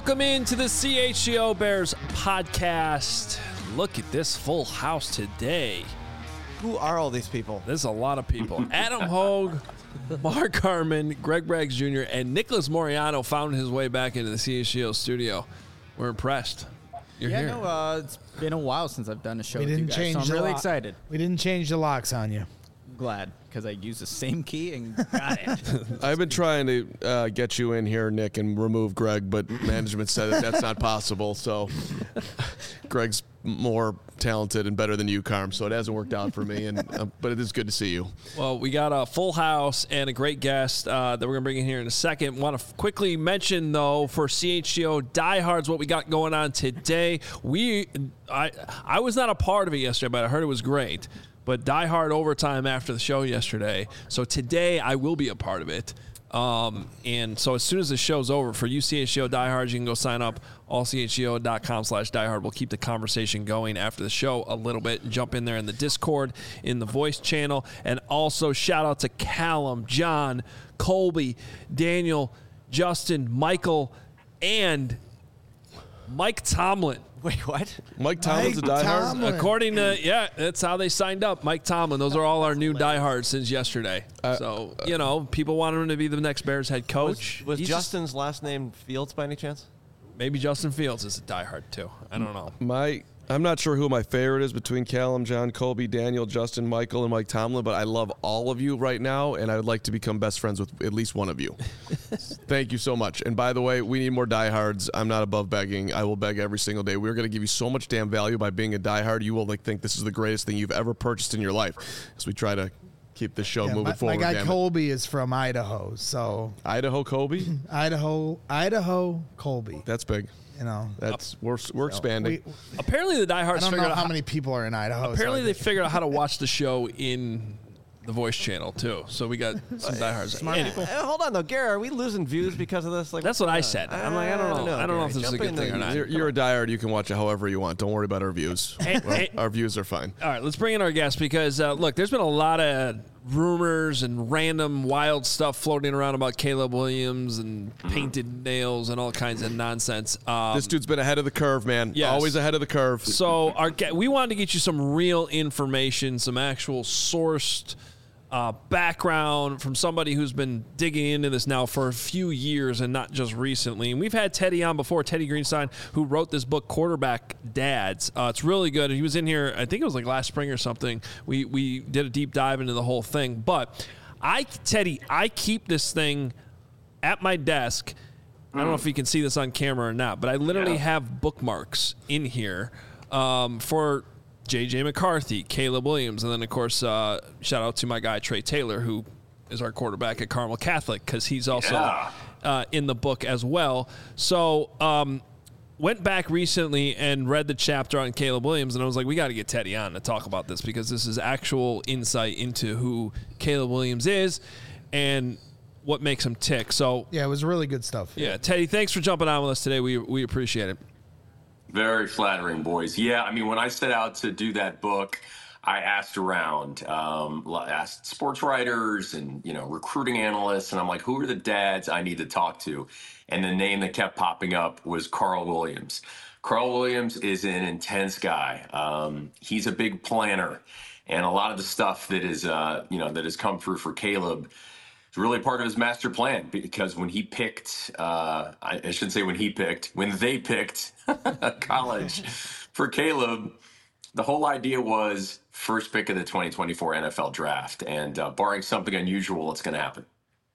Welcome into the CHGO Bears podcast. Look at this full house today. Who are all these people? There's a lot of people. Adam Hogue, Mark Harmon, Greg Braggs Jr., and Nicholas Moriano found his way back into the CHGO studio. We're impressed. You're here. No, it's been a while since I've done a show with you guys, change so I'm the really lock. excited. We didn't change the locks on you. Glad, because I used the same key and got it. I've been trying to get you in here, Nick, and remove Greg, but management said that's not possible. So Greg's more talented and better than you, Carm, so it hasn't worked out for me. But it is good to see you. Well, we got a full we're and a great guest that we're going to bring in here in a second. Want to quickly mention, though, for CHGO Diehards, what we got going on today. I was not a part of it yesterday, but I heard it was great. But Die Hard overtime after the show yesterday. So today I will be a part of it. And so as soon as the show's over, for you CHGO diehards, you can go sign up, allchgo.com/diehard. We'll keep the conversation going after the show a little bit and jump in there in the Discord, in the voice channel. And also shout out to Callum, John, Colby, Daniel, Justin, Michael, and Mike Tomlin. Wait, what? Mike Tomlin's a diehard? According to, that's how they signed up. Mike Tomlin. Those are all our new diehards since yesterday. People want him to be the next Bears head coach. Was Justin's last name Fields by any chance? Maybe Justin Fields is a diehard too. I don't know. I'm not sure who my favorite is between Callum, John, Colby, Daniel, Justin, Michael, and Mike Tomlin, but I love all of you right now, and I would like to become best friends with at least one of you. Thank you so much. And by the way, we need more diehards. I'm not above begging. I will beg every single day. We're going to give you so much damn value by being a diehard. You will think this is the greatest thing you've ever purchased in your life as we try to keep this show moving forward. My guy Colby is from Idaho, so Idaho Colby? Idaho Colby. That's big. We're expanding. Apparently the diehards I don't figured know out how many people are in Idaho. Apparently they figured out how to watch the show in the voice channel too. So we got some diehards. Hold on though, Gary. Are we losing views because of this? That's what I said. I'm like, I don't know. I don't know if this is a good thing or not. You're a diehard. You can watch it however you want. Don't worry about our views. Our views are fine. All right, let's bring in our guest because look, there's been a lot of rumors and random wild stuff floating around about Caleb Williams and painted nails and all kinds of nonsense. This dude's been ahead of the curve, man. Yes. Always ahead of the curve. So we wanted to get you some real information, some actual sourced background from somebody who's been digging into this now for a few years and not just recently. And we've had Teddy on before, Teddy Greenstein, who wrote this book, Quarterback Dads. It's really good. He was in here, I think it was like last spring or something. We did a deep dive into the whole thing. But Teddy, I keep this thing at my desk. I don't know if you can see this on camera or not, but I literally have bookmarks in here for J.J. McCarthy, Caleb Williams, and then, of course, shout out to my guy Trey Taylor, who is our quarterback at Carmel Catholic, because he's also in the book as well. So went back recently and read the chapter on Caleb Williams, and I was like, we got to get Teddy on to talk about this because this is actual insight into who Caleb Williams is and what makes him tick. So yeah, it was really good stuff. Yeah, Teddy, thanks for jumping on with us today. We appreciate it. Very flattering, boys. Yeah, I mean, when I set out to do that book, I asked around, asked sports writers and, recruiting analysts, and I'm like, who are the dads I need to talk to? And the name that kept popping up was Carl Williams. Carl Williams is an intense guy. He's a big planner, and a lot of the stuff that is, that has come through for Caleb is really part of his master plan, because when he picked, I shouldn't say when they picked college for Caleb, the whole idea was first pick of the 2024 NFL draft. And barring something unusual, it's going to happen.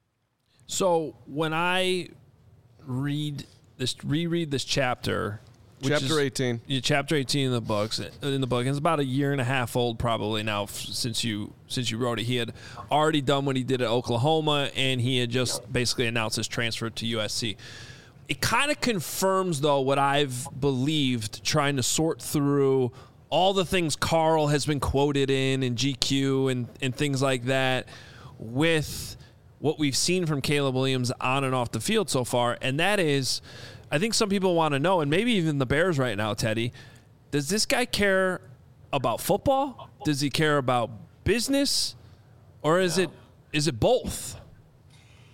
So when I reread this chapter, Chapter 18. Yeah, Chapter 18 in the book. And it's about a year and a half old probably now since you wrote it. He had already done what he did at Oklahoma, and he had just basically announced his transfer to USC. It kind of confirms, though, what I've believed trying to sort through all the things Carl has been quoted in GQ and things like that with what we've seen from Caleb Williams on and off the field so far, and that is, I think some people want to know, and maybe even the Bears right now, Teddy, does this guy care about football? Does he care about business? Or is it both?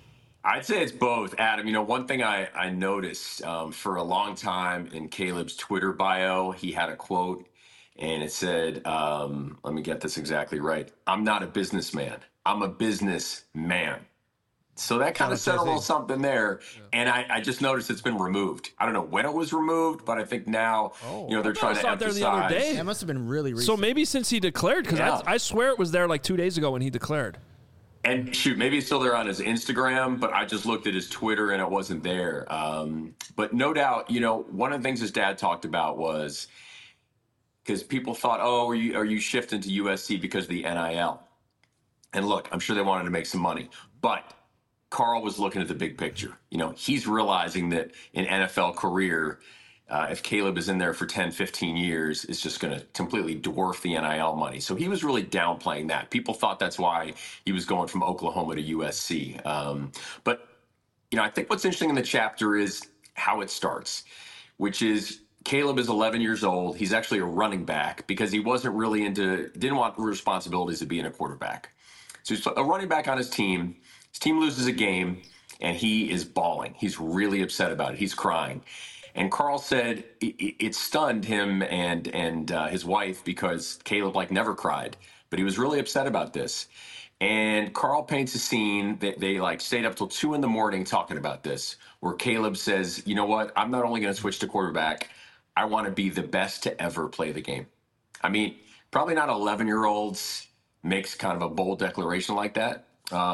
I'd say it's both, Adam. One thing I noticed for a long time in Caleb's Twitter bio, he had a quote, and it said, let me get this exactly right. I'm not a businessman. I'm a businessman. So that kind of said a little something there. Yeah. And I just noticed it's been removed. I don't know when it was removed, but I think now, they're trying to emphasize. There the other day. That must have been really recent. So maybe since he declared, because I swear it was there like 2 days ago when he declared. And shoot, maybe it's still there on his Instagram, but I just looked at his Twitter and it wasn't there. But no doubt, one of the things his dad talked about was because people thought, are you shifting to USC because of the NIL? And look, I'm sure they wanted to make some money, but Carl was looking at the big picture. He's realizing that an NFL career, if Caleb is in there for 10, 15 years, is just going to completely dwarf the NIL money. So he was really downplaying that. People thought that's why he was going from Oklahoma to USC. But I think what's interesting in the chapter is how it starts, which is Caleb is 11 years old. He's actually a running back because he wasn't really didn't want the responsibilities of being a quarterback. So he's a running back on his team. His team loses a game, and he is bawling. He's really upset about it. He's crying. And Carl said it stunned him and his wife because Caleb never cried, but he was really upset about this. And Carl paints a scene that they stayed up till 2 a.m. talking about this, where Caleb says, you know what? I'm not only going to switch to quarterback. I want to be the best to ever play the game. I mean, probably not 11-year-olds makes kind of a bold declaration like that.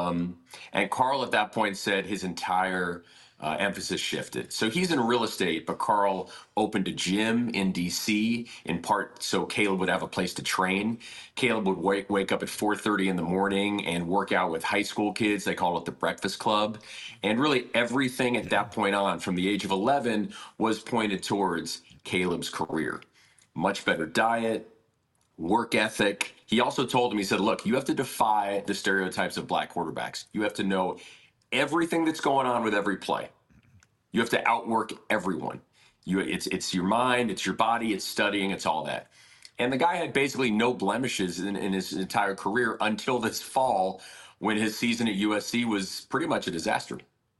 And Carl at that point said his entire emphasis shifted. So he's in real estate, but Carl opened a gym in D.C. in part so Caleb would have a place to train. Caleb would wake up at 4:30 in the morning and work out with high school kids. They call it the Breakfast Club. And really everything at that point on, from the age of 11, was pointed towards Caleb's career. Much better diet, work ethic. He also told him, he said, look, you have to defy the stereotypes of black quarterbacks. You have to know everything that's going on with every play. You have to outwork everyone. It's your mind, it's your body, it's studying, it's all that. And the guy had basically no blemishes in his entire career until this fall when his season at USC was pretty much a disaster.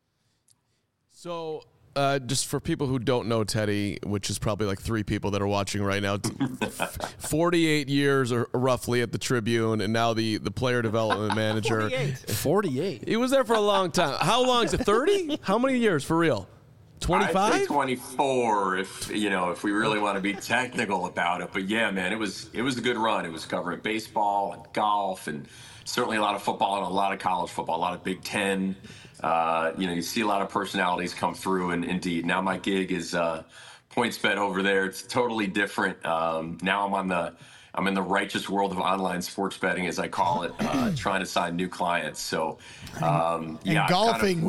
So just for people who don't know Teddy, which is probably 3 people that are watching right now, 48 years or roughly at the Tribune, and now the player development manager. 48. He was there for a long time. How long is it? 30? How many years for real? 25? I'd say 24 if we really want to be technical about it. But yeah, man, it was a good run. It was covering baseball and golf and certainly a lot of football and a lot of college football, a lot of Big Ten. You see a lot of personalities come through, and indeed, now my gig is PointsBet over there. It's totally different. Now I'm in the righteous world of online sports betting, as I call it, trying to sign new clients. So, golfing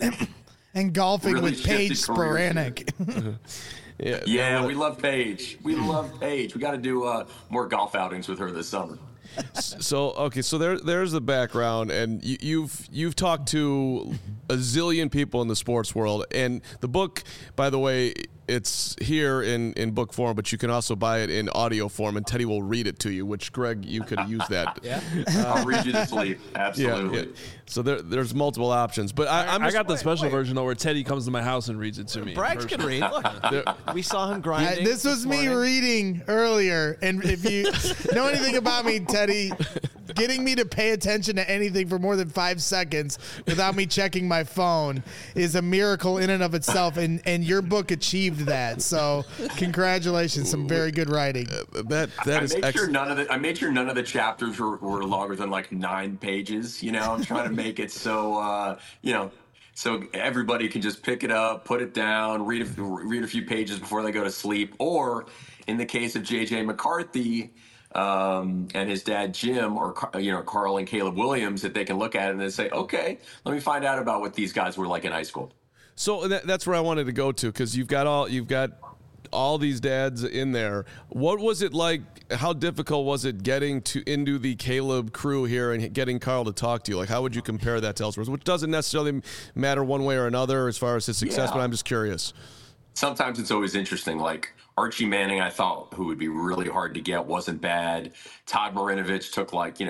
with Paige Spiranac. Yeah, we love Paige. We got to do more golf outings with her this summer. So there's the background, and you've talked to a zillion people in the sports world, and the book, by the way, it's here in book form, but you can also buy it in audio form, and Teddy will read it to you, which, Greg, you could use that. Yeah. I'll read you to sleep. Absolutely. Yeah. So there's multiple options, but I got the special version though, where Teddy comes to my house and reads it to me. Braggs can read. Look, we saw him grinding. This was me reading earlier, and if you know anything about me, Teddy, getting me to pay attention to anything for more than 5 seconds without me checking my phone is a miracle in and of itself, and your book achieved that. So congratulations, some very good writing. That is excellent. I made sure none of the chapters were longer than 9 pages. I'm trying to make it so so everybody can just pick it up, put it down, read a few pages before they go to sleep. Or in the case of J.J. McCarthy and his dad Jim, or Carl and Caleb Williams, that they can look at it and they say, okay, let me find out about what these guys were like in high school. So that's where I wanted to go to, because you've got all these dads in there. What was it like? How difficult was it getting into the Caleb crew here and getting Carl to talk to you? How would you compare that to elsewhere? Which doesn't necessarily matter one way or another as far as his success, but I'm just curious. Sometimes it's always interesting. Archie Manning, I thought, who would be really hard to get, wasn't bad. Todd Marinovich took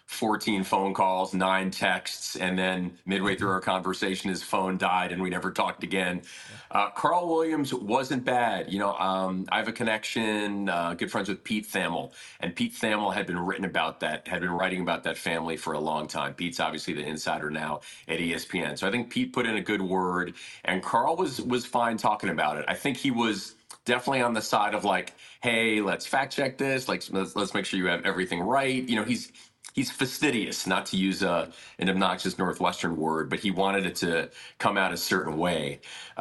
14 phone calls, 9 texts, and then midway through our conversation, his phone died and we never talked again. Carl Williams wasn't bad. I have a connection, good friends with Pete Thamel, and Pete Thamel had been writing about that family for a long time. Pete's obviously the insider now at ESPN. So I think Pete put in a good word, and Carl was fine talking about it. I think he was definitely on the side of like, hey, let's fact check this. Like, let's make sure you have everything right. He's fastidious, not to use an obnoxious Northwestern word, but he wanted it to come out a certain way.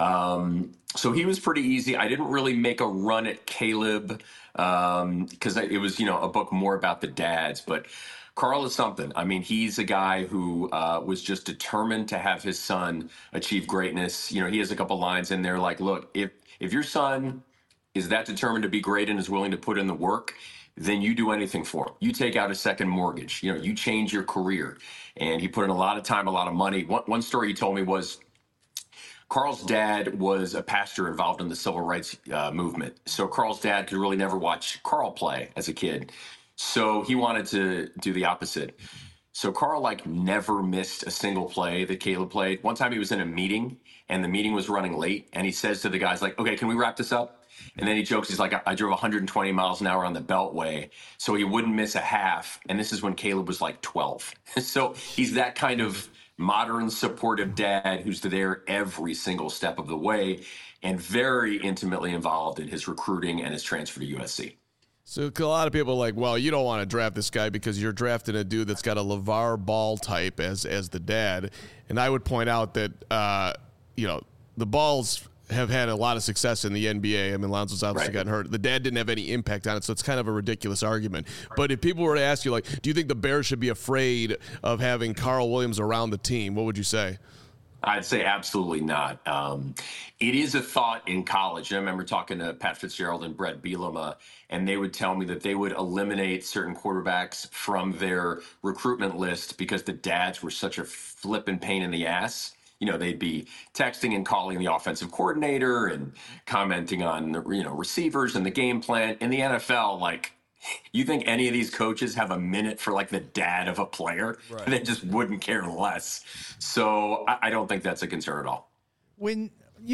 So he was pretty easy. I didn't really make a run at Caleb because it was, a book more about the dads. But Carl is something. I mean, he's a guy who was just determined to have his son achieve greatness. He has a couple lines in there like, look, if your son is that determined to be great and is willing to put in the work, then you do anything for him. You take out a second mortgage. You change your career. And he put in a lot of time, a lot of money. One story he told me was Carl's dad was a pastor involved in the civil rights movement. So Carl's dad could really never watch Carl play as a kid. So he wanted to do the opposite. So Carl never missed a single play that Caleb played. One time he was in a meeting and the meeting was running late. And he says to the guys okay, can we wrap this up? And then he jokes, he's like, I drove 120 miles an hour on the Beltway, so he wouldn't miss a half. And this is when Caleb was 12. So he's that kind of modern, supportive dad who's there every single step of the way and very intimately involved in his recruiting and his transfer to USC. So a lot of people are like, well, you don't want to draft this guy because you're drafting a dude that's got a LeVar Ball type as the dad. And I would point out that, the Balls have had a lot of success in the NBA. I mean, Lonzo's obviously gotten hurt. The dad didn't have any impact on it, so it's kind of a ridiculous argument. But if people were to ask you, do you think the Bears should be afraid of having Carl Williams around the team, what would you say? I'd say absolutely not. It is a thought in college. I remember talking to Pat Fitzgerald and Brett Bielema, and they would tell me that they would eliminate certain quarterbacks from their recruitment list because the dads were such a flippin' pain in the ass. They'd be texting and calling the offensive coordinator and commenting on the, receivers and the game plan. In the NFL, you think any of these coaches have a minute for the dad of a player? Right. They just wouldn't care less. So I don't think that's a concern at all. When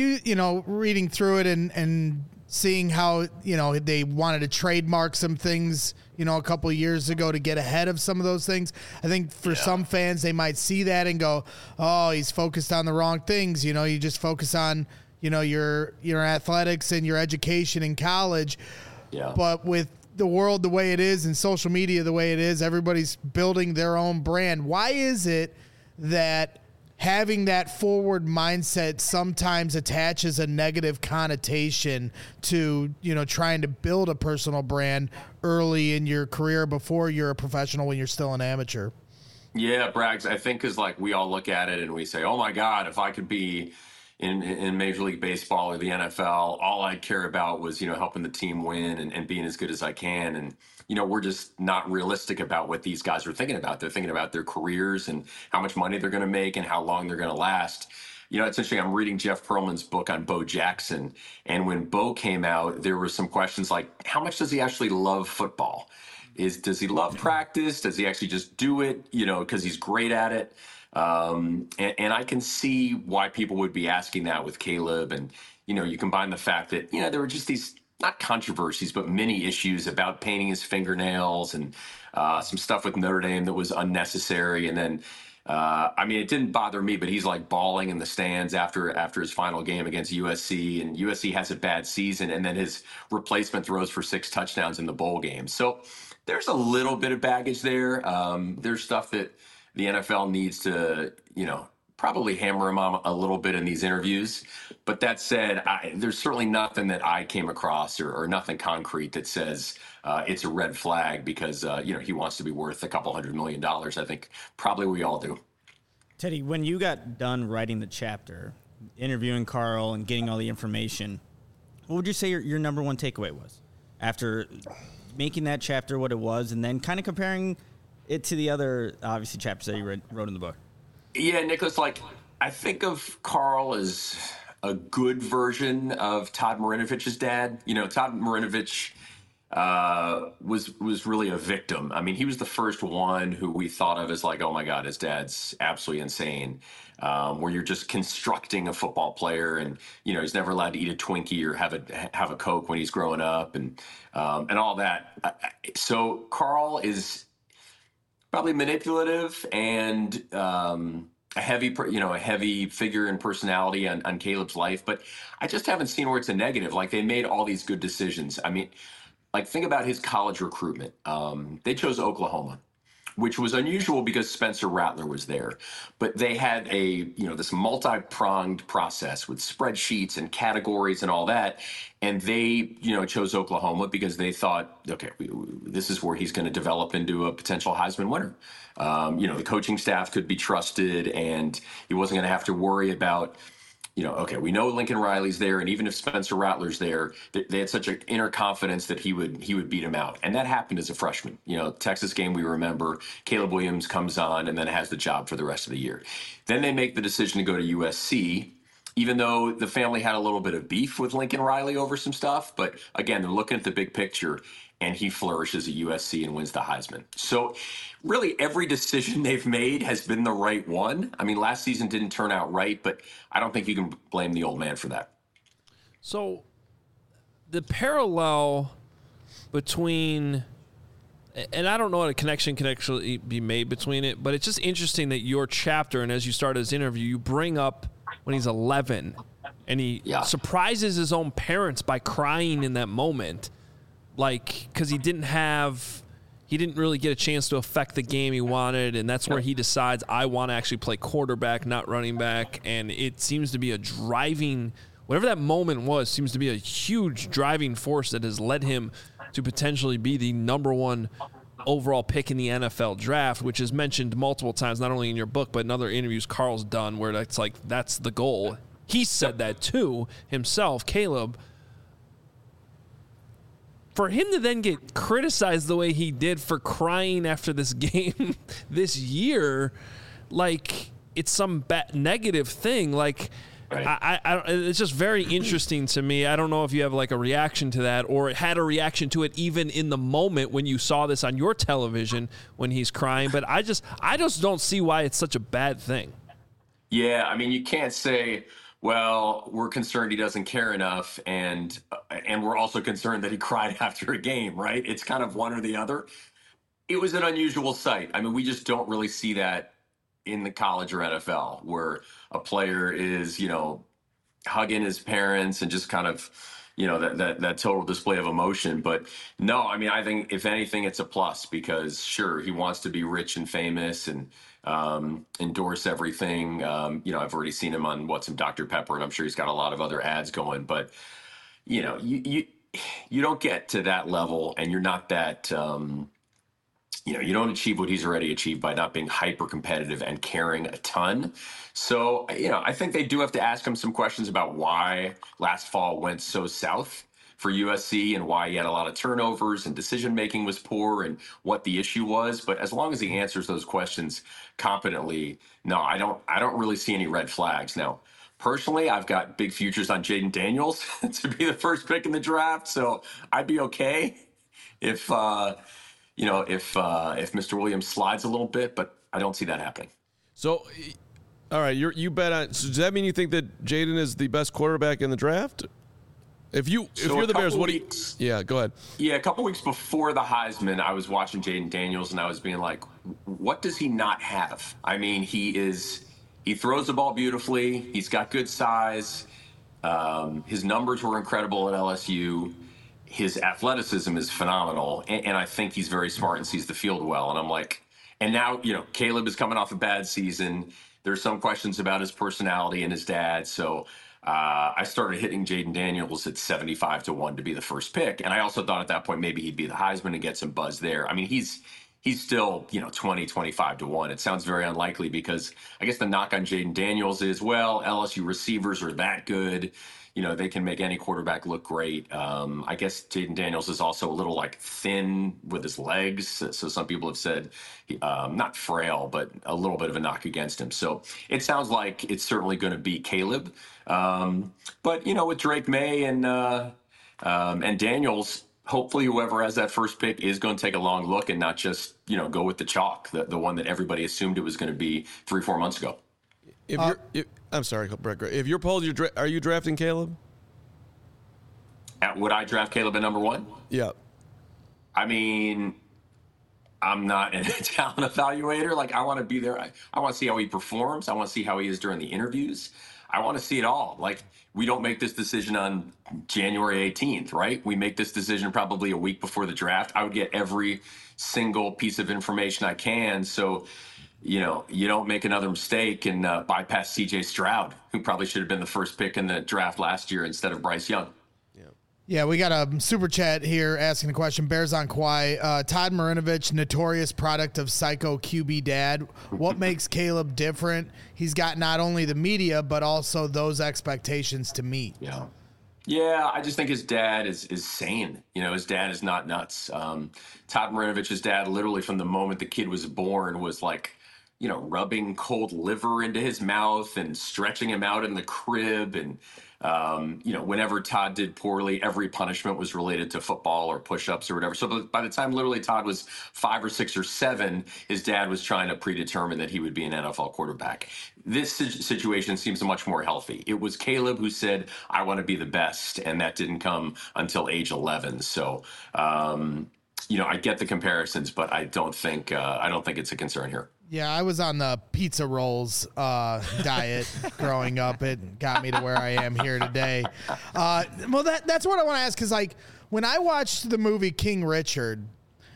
reading through it and seeing how, they wanted to trademark some things, a couple of years ago to get ahead of some of those things. I think for some fans, they might see that and go, oh, he's focused on the wrong things. You just focus on, your athletics and your education in college. Yeah. But with the world the way it is and social media the way it is, everybody's building their own brand. Why is it that having that forward mindset sometimes attaches a negative connotation to, trying to build a personal brand early in your career before you're a professional when you're still an amateur? Yeah, Braggs, I think because we all look at it and we say, oh my God, if I could be in Major League Baseball or the NFL, all I'd care about was, helping the team win and being as good as I can. And, we're just not realistic about what these guys are thinking about. They're thinking about their careers and how much money they're going to make and how long they're going to last. It's interesting. I'm reading Jeff Pearlman's book on Bo Jackson. And when Bo came out, there were some questions like, how much does he actually love football? Does he love practice? Does he actually just do it, because he's great at it? And I can see why people would be asking that with Caleb. And, you combine the fact that, there were just these, not controversies, but many issues about painting his fingernails and some stuff with Notre Dame that was unnecessary. And then, it didn't bother me, but he's bawling in the stands after his final game against USC, and USC has a bad season. And then his replacement throws for 6 touchdowns in the bowl game. So there's a little bit of baggage there. There's stuff that the NFL needs to, probably hammer him on a little bit in these interviews. But that said, there's certainly nothing that I came across or nothing concrete that says it's a red flag because, he wants to be worth a couple $100 million. I think probably we all do. Teddy, when you got done writing the chapter, interviewing Carl and getting all the information, what would you say your number one takeaway was after making that chapter what it was and then kind of comparing it to the other, obviously, chapters that you wrote in the book? Yeah, Nicholas, I think of Carl as a good version of Todd Marinovich's dad. Todd Marinovich was really a victim. I mean, he was the first one who we thought of as like, oh my God, his dad's absolutely insane. Where you're just constructing a football player, and he's never allowed to eat a Twinkie or have a Coke when he's growing up, and all that. So Carl is probably manipulative and a heavy figure and personality on Caleb's life, but I just haven't seen where it's a negative. Like, they made all these good decisions. I mean, like, think about his college recruitment. They chose Oklahoma, which was unusual because Spencer Rattler was there. But they had this multi-pronged process with spreadsheets and categories and all that. And they, chose Oklahoma because they thought, okay, this is where he's going to develop into a potential Heisman winner. The coaching staff could be trusted, and he wasn't going to have to worry about, okay, we know Lincoln Riley's there, and even if Spencer Rattler's there, they had such an inner confidence that he would beat him out. And that happened as a freshman. Texas game, we remember, Caleb Williams comes on and then has the job for the rest of the year. Then they make the decision to go to USC, even though the family had a little bit of beef with Lincoln Riley over some stuff. But again, they're looking at the big picture, and he flourishes at USC and wins the Heisman. So really every decision they've made has been the right one. I mean, last season didn't turn out right, but I don't think you can blame the old man for that. So the parallel between, and I don't know what a connection can actually be made between it, but it's just interesting that your chapter, and as you start his interview, you bring up when he's 11 and he surprises his own parents by crying in that moment. Like, because he didn't really get a chance to affect the game he wanted, and that's where he decides, I want to actually play quarterback, not running back. And it seems to be whatever that moment was, seems to be a huge driving force that has led him to potentially be the number one overall pick in the NFL draft, which is mentioned multiple times, not only in your book, but in other interviews Carl's done, where that's the goal. He said that too himself, Caleb. For him to then get criticized the way he did for crying after this game this year, like it's some negative thing. Like, right. It's just very interesting to me. I don't know if you have like a reaction to that, or had a reaction to it even in the moment when you saw this on your television when he's crying. But I just don't see why it's such a bad thing. Yeah, I mean, you can't say, well, we're concerned he doesn't care enough, and we're also concerned that he cried after a game, right? It's kind of one or the other. It was an unusual sight. I mean, we just don't really see that in the college or NFL, where a player is, hugging his parents and just kind of, that total display of emotion. But no, I mean, I think if anything, it's a plus, because sure, he wants to be rich and famous and endorse everything. I've already seen him on What's in Dr. Pepper, and I'm sure he's got a lot of other ads going, but you don't get to that level, and you're not that, you don't achieve what he's already achieved by not being hyper competitive and caring a ton. So, I think they do have to ask him some questions about why last fall went so south for USC and why he had a lot of turnovers and decision-making was poor and what the issue was. But as long as he answers those questions competently, no, I don't really see any red flags. Now, personally, I've got big futures on Jayden Daniels to be the first pick in the draft. So I'd be okay if Mr. Williams slides a little bit, but I don't see that happening. So, all right, you bet on. So does that mean you think that Jayden is the best quarterback in the draft? If you're the Bears, what do you? Yeah, go ahead. Yeah, a couple weeks before the Heisman, I was watching Jayden Daniels, and I was being like, what does he not have? I mean, he throws the ball beautifully. He's got good size. His numbers were incredible at LSU. His athleticism is phenomenal, and I think he's very smart and sees the field well. And I'm like, and now, Caleb is coming off a bad season. There's some questions about his personality and his dad. So I started hitting Jayden Daniels at 75-1 to be the first pick. And I also thought at that point maybe he'd be the Heisman and get some buzz there. I mean, he's still, 20-25-1. It sounds very unlikely because I guess the knock on Jayden Daniels is, well, LSU receivers are that good. They can make any quarterback look great. I guess Jayden Daniels is also a little thin with his legs. So some people have said not frail, but a little bit of a knock against him. So it sounds like it's certainly going to be Caleb. But with Drake May and Daniels, hopefully whoever has that first pick is going to take a long look and not just, go with the chalk, the one that everybody assumed it was going to be 3-4 months ago. I'm sorry, Brett. If you're polled, are you drafting Caleb? Would I draft Caleb at number 1? Yeah. I mean, I'm not a talent evaluator. Like, I want to be there. I want to see how he performs. I want to see how he is during the interviews. I want to see it all. Like, we don't make this decision on January 18th, right? We make this decision probably a week before the draft. I would get every single piece of information I can. So, you don't make another mistake and bypass CJ Stroud, who probably should have been the first pick in the draft last year instead of Bryce Young. Yeah, we got a super chat here asking a question. Bears on Kawhi. Todd Marinovich, notorious product of psycho QB dad. What makes Caleb different? He's got not only the media, but also those expectations to meet. Yeah, I just think his dad is sane. His dad is not nuts. Todd Marinovich's dad, literally from the moment the kid was born, was like, rubbing cold liver into his mouth and stretching him out in the crib. And, whenever Todd did poorly, every punishment was related to football or push-ups or whatever. So by the time literally Todd was 5 or 6 or 7, his dad was trying to predetermine that he would be an NFL quarterback. This situation seems much more healthy. It was Caleb who said, I want to be the best, and that didn't come until age 11. So, I get the comparisons, but I don't think it's a concern here. Yeah, I was on the pizza rolls diet growing up. It got me to where I am here today. Well, that's what I want to ask, because when I watched the movie King Richard,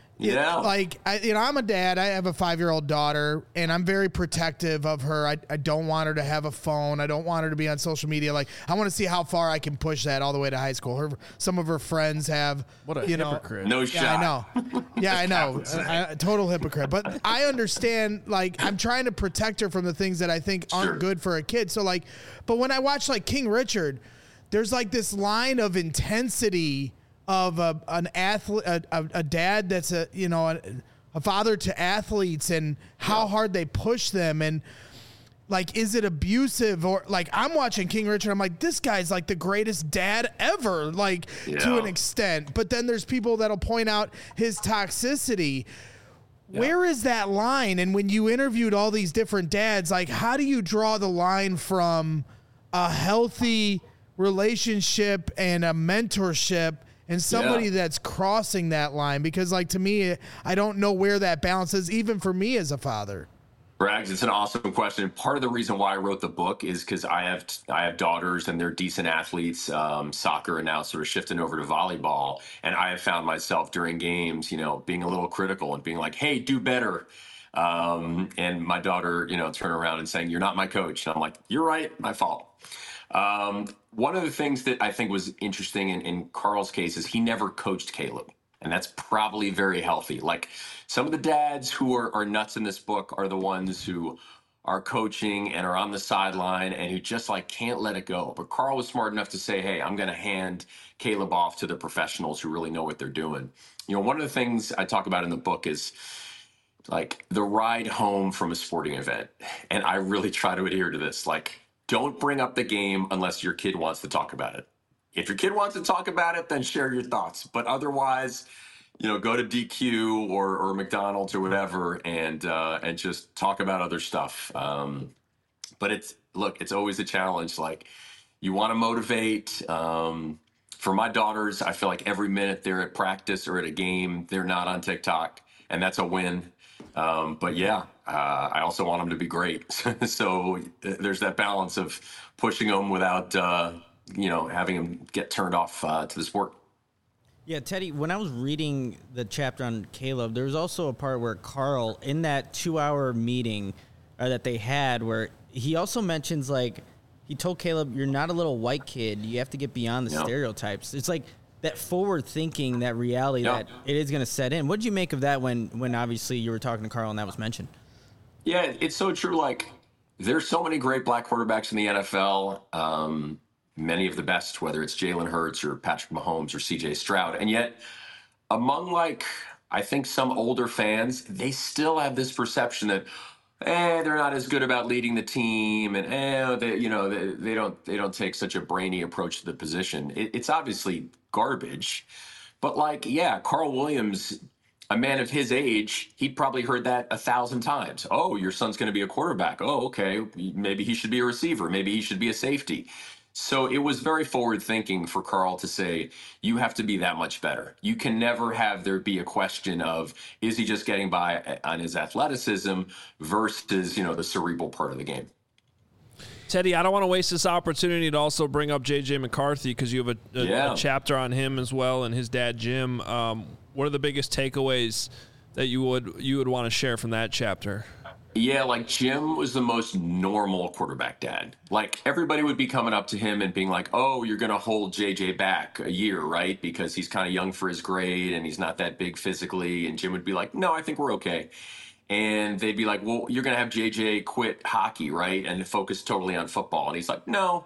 I'm a dad. I have a 5-year-old daughter, and I'm very protective of her. I don't want her to have a phone. I don't want her to be on social media. I want to see how far I can push that all the way to high school. Some of her friends have. What a hypocrite! No shot. I know. Yeah, I know. Total hypocrite. But I understand. I'm trying to protect her from the things that I think aren't good for a kid. So but when I watch King Richard, there's this line of intensity of an athlete, a dad that's a father to athletes, and how hard they push them, and is it abusive, or I'm watching King Richard, I'm like, this guy's the greatest dad ever, to an extent. But then there's people that'll point out his toxicity. Yeah. Where is that line? And when you interviewed all these different dads, how do you draw the line from a healthy relationship and a mentorship and somebody that's crossing that line? Because to me, I don't know where that balance is, even for me as a father. Rags, it's an awesome question. Part of the reason why I wrote the book is because I have daughters, and they're decent athletes, soccer, and now sort of shifting over to volleyball. And I have found myself during games, being a little critical and being like, hey, do better. And my daughter, turn around and saying, you're not my coach. And I'm like, you're right, my fault. One of the things that I think was interesting in Carl's case is he never coached Caleb. And that's probably very healthy. Some of the dads who are nuts in this book are the ones who are coaching and are on the sideline and who just can't let it go. But Carl was smart enough to say, hey, I'm going to hand Caleb off to the professionals who really know what they're doing. One of the things I talk about in the book is the ride home from a sporting event. And I really try to adhere to this. Don't bring up the game unless your kid wants to talk about it. If your kid wants to talk about it, then share your thoughts. But otherwise, go to DQ or McDonald's or whatever and just talk about other stuff. But it's always a challenge. You want to motivate. For my daughters, I feel every minute they're at practice or at a game, they're not on TikTok, and that's a win. I also want them to be great. So there's that balance of pushing them without, having them get turned off to the sport. Yeah, Teddy, when I was reading the chapter on Caleb, there was also a part where Carl, in that 2-hour meeting that they had, where he also mentions, he told Caleb, you're not a little white kid. You have to get beyond the stereotypes. It's that forward thinking, that reality that it is going to set in. What did you make of that when obviously you were talking to Carl and that was mentioned? Yeah, it's so true. There's so many great black quarterbacks in the NFL, many of the best, whether it's Jalen Hurts or Patrick Mahomes or CJ Stroud. And yet among I think some older fans, they still have this perception that, they're not as good about leading the team, and they don't take such a brainy approach to the position. It's obviously garbage, But like, yeah, Carl Williams, a man of his age, he'd probably heard that 1,000 times. Oh, your son's going to be a quarterback. Oh, okay. Maybe he should be a receiver. Maybe he should be a safety. So it was very forward thinking for Carl to say, you have to be that much better. You can never have there be a question of, is he just getting by on his athleticism versus, the cerebral part of the game. Teddy, I don't want to waste this opportunity to also bring up J.J. McCarthy because you have a chapter on him as well and his dad, Jim. What are the biggest takeaways that you would want to share from that chapter? Yeah, like Jim was the most normal quarterback dad. Like everybody would be coming up to him and being like, oh, you're going to hold JJ back a year, right? Because he's kind of young for his grade and he's not that big physically. And Jim would be like, no, I think we're okay. And they'd be like, well, you're going to have JJ quit hockey, right? And focus totally on football. And he's like, no,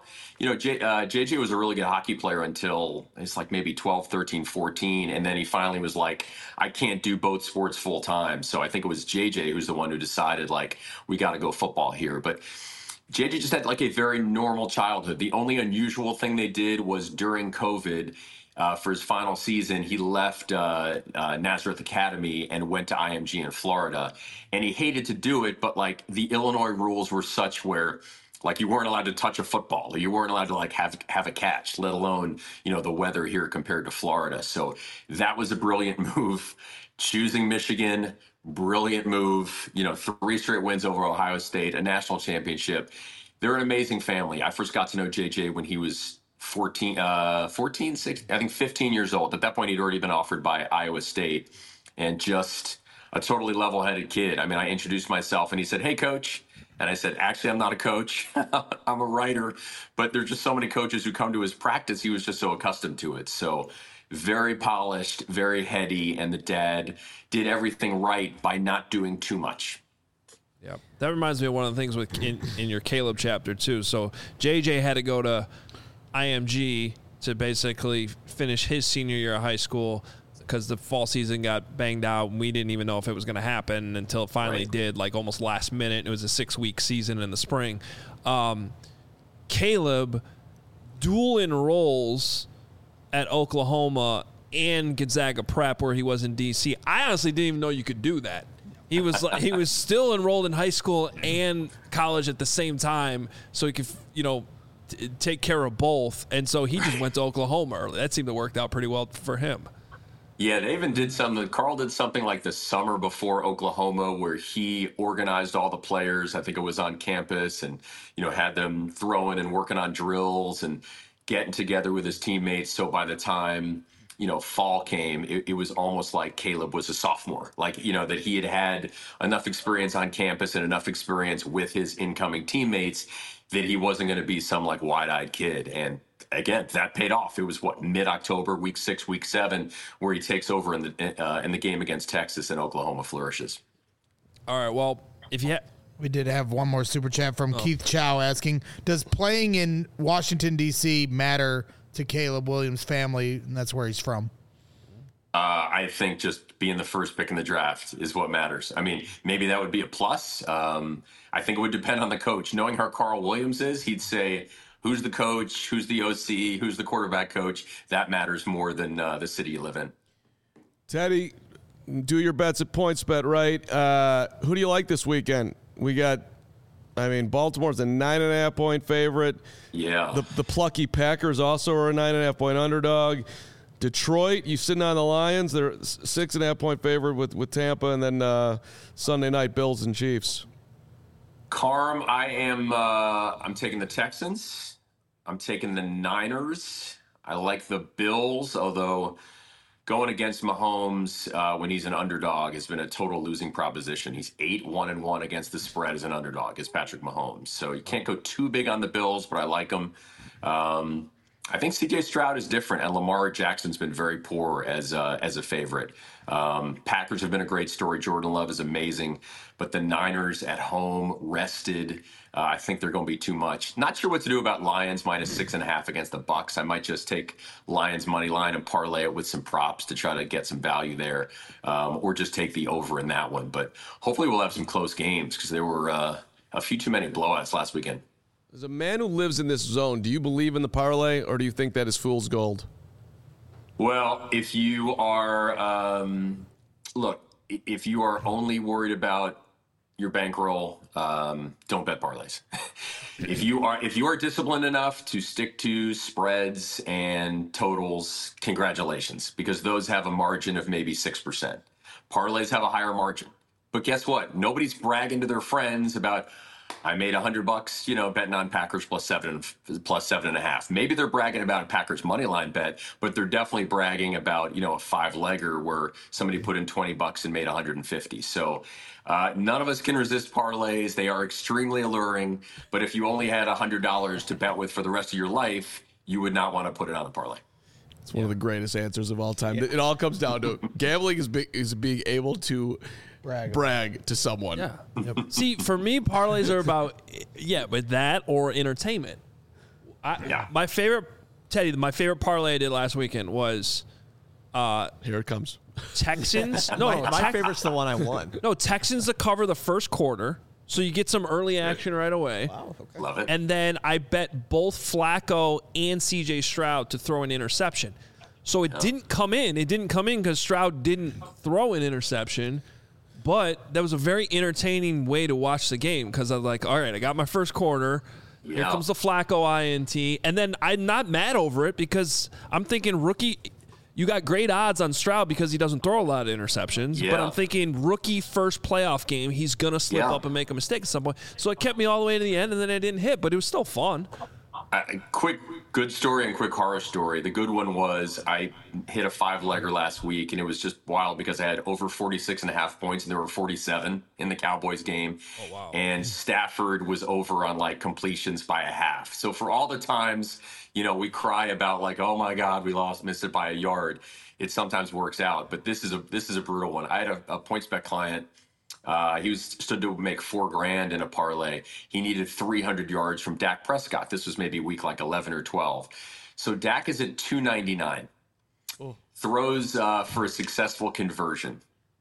JJ was a really good hockey player until it's like maybe 12, 13, 14. And then he finally was like, I can't do both sports full time. So I think it was JJ who's the one who decided like, we got to go football here. But JJ just had like a very normal childhood. The only unusual thing they did was during COVID, for his final season, he left Nazareth Academy and went to IMG in Florida. And he hated to do it, but like the Illinois rules were such where like you weren't allowed to touch a football, or you weren't allowed to like have a catch, let alone, the weather here compared to Florida. So that was a brilliant move. Choosing Michigan, brilliant move. 3 straight wins over Ohio State, a national championship. They're an amazing family. I first got to know JJ when he was 14, 16, I think 15 years old. At that point, he'd already been offered by Iowa State, and just a totally level-headed kid. I mean, I introduced myself and he said, hey, coach. And I said, actually, I'm not a coach. I'm a writer. But there's just so many coaches who come to his practice. He was just so accustomed to it. So very polished, very heady. And the dad did everything right by not doing too much. Yeah, that reminds me of one of the things in your Caleb chapter, too. So JJ had to go to IMG to basically finish his senior year of high school because the fall season got banged out and we didn't even know if it was going to happen until it finally did, like almost last minute. It was a 6-week season in the spring. Caleb dual enrolls at Oklahoma and Gonzaga Prep where he was in DC. I honestly didn't even know you could do that. He was still enrolled in high school and college at the same time, so he could take care of both. And so he just went to Oklahoma early. That seemed to work out pretty well for him. Yeah, they even did something. Carl did something like the summer before Oklahoma where he organized all the players. I think it was on campus and, had them throwing and working on drills and getting together with his teammates. So by the time, fall came, it was almost like Caleb was a sophomore, like, that he had enough experience on campus and enough experience with his incoming teammates that he wasn't going to be some like wide-eyed kid. And again, that paid off. It was mid-October, week 6, week 7, where he takes over in the game against Texas and Oklahoma flourishes. All right. Well, we did have one more super chat from Keith Chow asking, does playing in Washington, D.C. matter to Caleb Williams' family? And that's where he's from. I think just being the first pick in the draft is what matters. I mean, maybe that would be a plus. I think it would depend on the coach. Knowing how Carl Williams is, he'd say, who's the coach, who's the OC, who's the quarterback coach? That matters more than the city you live in. Teddy, do your bets at PointsBet, right? Who do you like this weekend? We got, Baltimore's a 9.5-point favorite. Yeah. The plucky Packers also are a 9.5-point underdog. Detroit, you sitting on the Lions. They're 6.5-point favorite with Tampa, and then Sunday night Bills and Chiefs. Carm, I'm taking the Texans. I'm taking the Niners. I like the Bills, although going against Mahomes when he's an underdog has been a total losing proposition. He's 8-1-1 against the spread as an underdog, as Patrick Mahomes. So you can't go too big on the Bills, but I like them. I think C.J. Stroud is different, and Lamar Jackson's been very poor as a favorite. Packers have been a great story. Jordan Love is amazing, but the Niners at home, rested. I think they're going to be too much. Not sure what to do about Lions minus 6.5 against the Bucks. I might just take Lions money line and parlay it with some props to try to get some value there, or just take the over in that one. But hopefully we'll have some close games because there were a few too many blowouts last weekend. As a man who lives in this zone, do you believe in the parlay, or do you think that is fool's gold? Well, if you are, if you are only worried about your bankroll, don't bet parlays. If you are disciplined enough to stick to spreads and totals, congratulations, because those have a margin of maybe 6%. Parlays have a higher margin. But guess what? Nobody's bragging to their friends about, I made $100, betting on Packers plus 7.5. Maybe they're bragging about a Packers money line bet, but they're definitely bragging about, a 5-legger where somebody put in $20 and made 150. So none of us can resist parlays. They are extremely alluring. But if you only had $100 to bet with for the rest of your life, you would not want to put it on a parlay. It's one of the greatest answers of all time. Yeah. It all comes down to gambling is being able to brag to someone. Yeah. Yep. See, for me, parlays are about with that or entertainment. My favorite parlay I did last weekend was here it comes. Texans. My favorite's the one I won. No, Texans to cover the first quarter. So you get some early action right away. Wow, okay. Love it. And then I bet both Flacco and CJ Stroud to throw an interception. So it didn't come in. It didn't come in because Stroud didn't throw an interception. But that was a very entertaining way to watch the game because I was like, all right, I got my first quarter. Yeah. Here comes the Flacco INT. And then I'm not mad over it because I'm thinking rookie – you got great odds on Stroud because he doesn't throw a lot of interceptions. Yeah. But I'm thinking rookie first playoff game, he's going to slip up and make a mistake at some point. So it kept me all the way to the end, and then I didn't hit, but it was still fun. Quick good story and quick horror story. The good one was I hit a 5-legger last week, and it was just wild because I had over 46.5 points, and there were 47 in the Cowboys game. Oh, wow. And Stafford was over on, completions by a half. So for all the times – we cry about oh my God, we missed it by a yard. It sometimes works out, but this is a brutal one. I had a PointsBet client. He stood to make $4,000 in a parlay. He needed 300 yards from Dak Prescott. This was maybe week 11 or 12. So Dak is at 299. Throws for a successful conversion.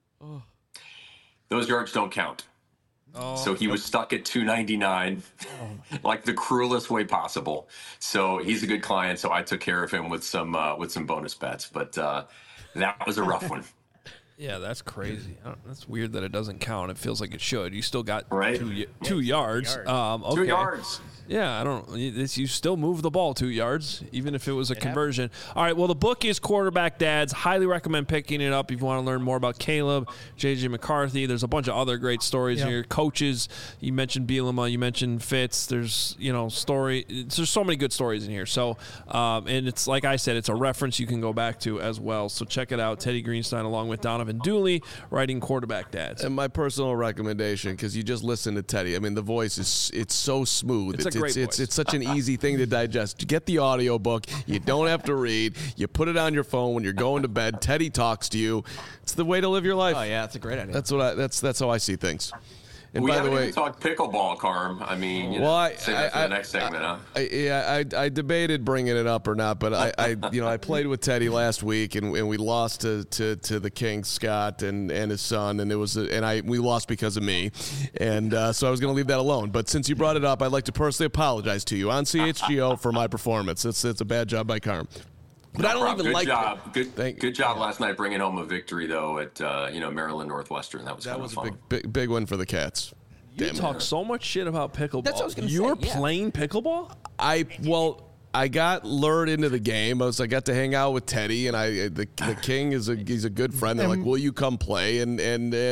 Those yards don't count. So he was stuck at 299, the cruelest way possible. So he's a good client. So I took care of him with some bonus bets, but that was a rough one. Yeah, that's crazy. That's weird that it doesn't count. It feels like it should. You still got right? 2 yards. Okay. 2 yards. Yeah, you still move the ball 2 yards, even if it was a conversion. All right, well, the book is Quarterback Dads. Highly recommend picking it up if you want to learn more about Caleb, J.J. McCarthy. There's a bunch of other great stories here. Coaches, you mentioned Bielema, you mentioned Fitz. There's, there's so many good stories in here. So, and it's, like I said, it's a reference you can go back to as well. So check it out. Teddy Greenstein along with Donovan Dooley writing Quarterback Dads. And my personal recommendation, because you just listen to Teddy. I mean, the voice it's so smooth. It's such an easy thing to digest. You get the audio book. You don't have to read. You put it on your phone when you're going to bed. Teddy talks to you. It's the way to live your life. Oh yeah, that's a great idea. That's how I see things. And we by haven't the way, even talked pickleball, Carm. I mean, save that for the next segment, huh? I debated bringing it up or not, but I played with Teddy last week, and we lost to the King, Scott, and his son, and we lost because of me, and so I was going to leave that alone. But since you brought it up, I'd like to personally apologize to you on CHGO for my performance. It's a bad job by Carm. But I don't even like it. Good job last night bringing home a victory though at Maryland Northwestern. That was a big win for the Cats. You talk so much shit about pickleball. That's what I was going to say. You were playing pickleball? I got lured into the game. I got to hang out with Teddy, and the King he's a good friend. They're like, "Will you come play?" And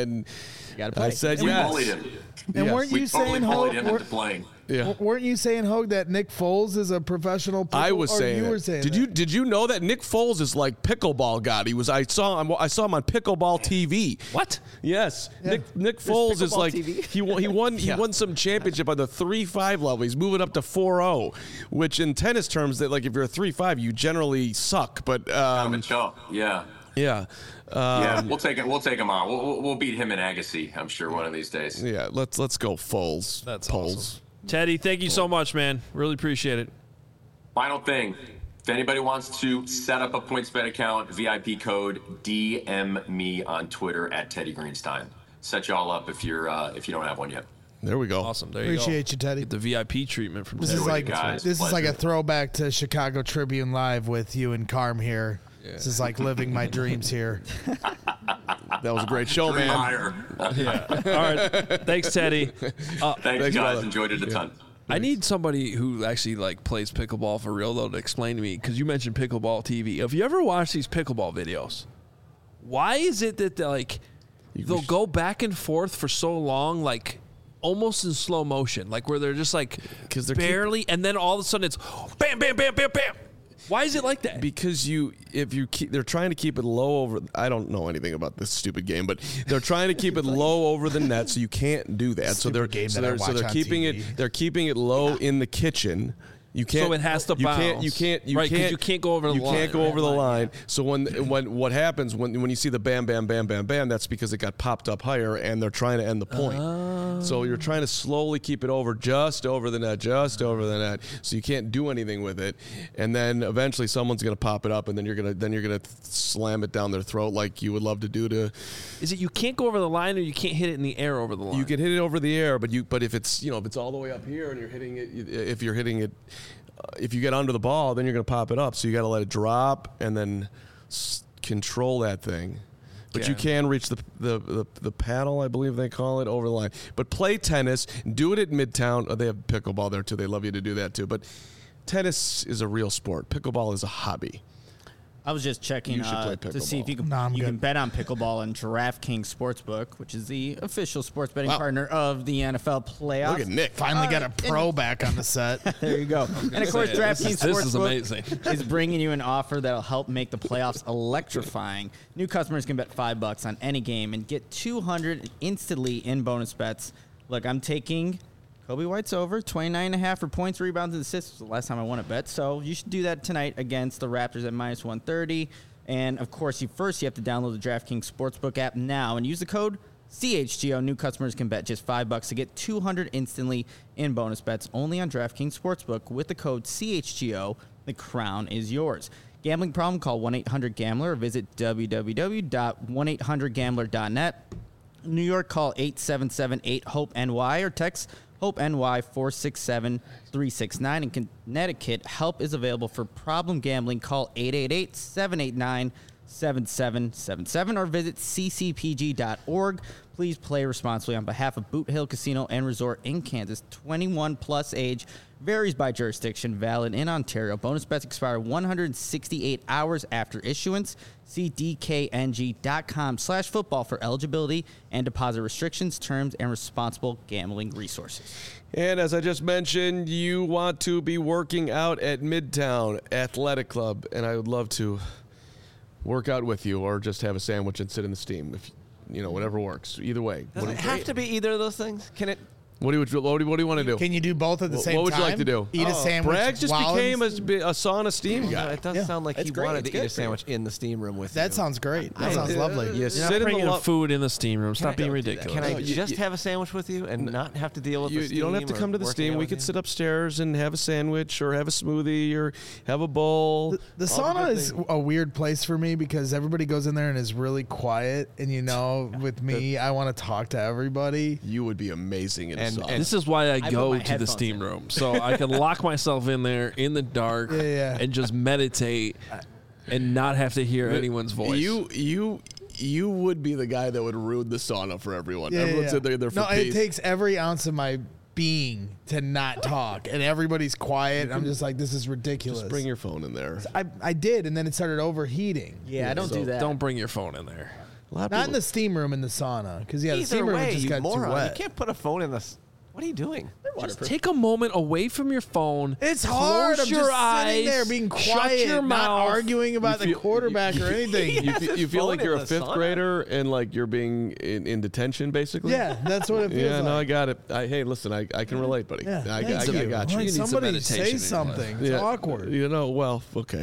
I said, "Yes." We bullied him. And weren't you saying, bullied him into playing? Yeah. Weren't you saying, Hogue, that Nick Foles is a professional pickle? I was saying you were saying Did you know that Nick Foles is like pickleball god? I saw him on pickleball TV. What? Yes. Yeah. Nick Foles is like TV? he won some championship on the 3-5 level. He's moving up to 4-0, which in tennis terms that if you're a 3-5 you generally suck, but yeah. Yeah. We'll take him on. We'll beat him in Agassi, I'm sure, one of these days. Yeah, let's go Foles. That's Poles. Awesome. Teddy, thank you so much, man. Really appreciate it. Final thing. If anybody wants to set up a PointsBet account, VIP code, DM me on Twitter at Teddy Greenstein. Set y'all up if you don't have one yet. There we go. Awesome. There you Appreciate you, Teddy. Get the VIP treatment from Teddy. This is like a throwback to Chicago Tribune Live with you and Carm here. This is like living my dreams here. That was a great show, Dream man. higher. All right. Thanks, Teddy. Thanks, guys. brother. Enjoyed it a ton. I need somebody who actually like plays pickleball for real though to explain to me, because you mentioned pickleball TV. Have you ever watched these pickleball videos? Why is it that they'll go back and forth for so long, like almost in slow motion, like where they're just like 'Cause they're barely, and then all of a sudden it's bam, bam, bam, bam, bam. Why is it like that? Because they're trying to keep it low over. I don't know anything about this stupid game, but they're trying to keep it low over the net, so you can't do that. So they're game that I watch on keeping TV. it. They're keeping it low in the kitchen. You can't. So it has to bounce. You can't. Right, 'cause you can't go over the You line, can't go right? over the line. So when what happens when you see the bam bam bam bam bam, that's because it got popped up higher and they're trying to end the point. So you're trying to slowly keep it over, just over the net, so you can't do anything with it. And then eventually someone's gonna pop it up, and then you're gonna slam it down their throat like you would love to do to. Is it you can't go over the line, or you can't hit it in the air over the line? You can hit it over the air, but if it's if it's all the way up here and you're hitting it, if you get under the ball, then you're going to pop it up. So you got to let it drop and then control that thing. But you can reach the paddle, I believe they call it, over the line. But play tennis, do it at Midtown. Oh, they have pickleball there too. They love you to do that too. But tennis is a real sport. Pickleball is a hobby. I was just checking You should play to see if you can No, I'm you can good. bet on pickleball on DraftKings Sportsbook, which is the official sports betting partner of the NFL playoffs. Look at Nick. Finally got a pro back on the set. There you go. And of course, DraftKings This is Sportsbook amazing. is bringing you an offer that'll help make the playoffs electrifying. New customers can bet $5 on any game and get $200 instantly in bonus bets. Look, I'm taking Kobe White's over 29.5 for points, rebounds, and assists. Was the last time I won a bet, so you should do that tonight against the Raptors at -130. And of course, you have to download the DraftKings Sportsbook app now and use the code CHGO. New customers can bet just $5 to get $200 instantly in bonus bets only on DraftKings Sportsbook with the code CHGO. The crown is yours. Gambling problem? Call 1-800-GAMBLER or visit www.1800gambler.net. New York, call 877-8-HOPE-NY or text HOPE-NY 467-369. In Connecticut, help is available for problem gambling. Call 888-789-7777 or visit ccpg.org. Please play responsibly on behalf of Boot Hill Casino and Resort in Kansas. 21 plus age. Varies by jurisdiction. Valid in Ontario. Bonus bets expire 168 hours after issuance. See dkng.com/football for eligibility and deposit restrictions, terms, and responsible gambling resources. And as I just mentioned, you want to be working out at Midtown Athletic Club, and I would love to work out with you or just have a sandwich and sit in the steam. If whatever works. Either way. Does it have to be either of those things? Can it? What do you want to do? Can you do both at the same time? What would you like to do? Eat a sandwich. Bragg just while became in- a sauna steam guy. It does Yeah. sound like That's he great. wanted It's to eat good a for you. sandwich in the steam room with you. That sounds great. That sounds lovely. You You're sit not in the bringing lo- food in the steam room. Stop being ridiculous. Can I No, just you- have a sandwich with you and not have to deal with the steam? You don't have to come to the or steam. working We out could with sit you? upstairs and have a sandwich or have a smoothie or have a bowl. The sauna is a weird place for me because everybody goes in there and is really quiet. And with me, I want to talk to everybody. You would be amazing in a sauna. This is why I put go my to the headphones steam in. room, so I can lock myself in there in the dark and just meditate and not have to hear anyone's voice. You would be the guy that would ruin the sauna for everyone. Everyone's in there for No, peace. it takes every ounce of my being to not talk, and everybody's quiet. I'm just like, this is ridiculous. Just bring your phone in there. I did, and then it started overheating. Yeah, I don't do that. Don't bring your phone in there. A lot of Not in people- the steam room, in the sauna, because the Either steam room way, just you got too moron. wet. You can't put a phone in this. What are you doing? Just take a moment away from your phone. It's hard. Close I'm your just eyes, sitting there being shut quiet, your not mouth. arguing about the quarterback or anything. You feel like phone you're in a the fifth sauna? grader and like you're being in detention, basically. Yeah, that's what it feels Yeah, like. no, I got it. Hey, listen, I can relate, buddy. Yeah, I thank you. got you. Like, need some somebody meditation say in your something. life. It's awkward. Well, okay.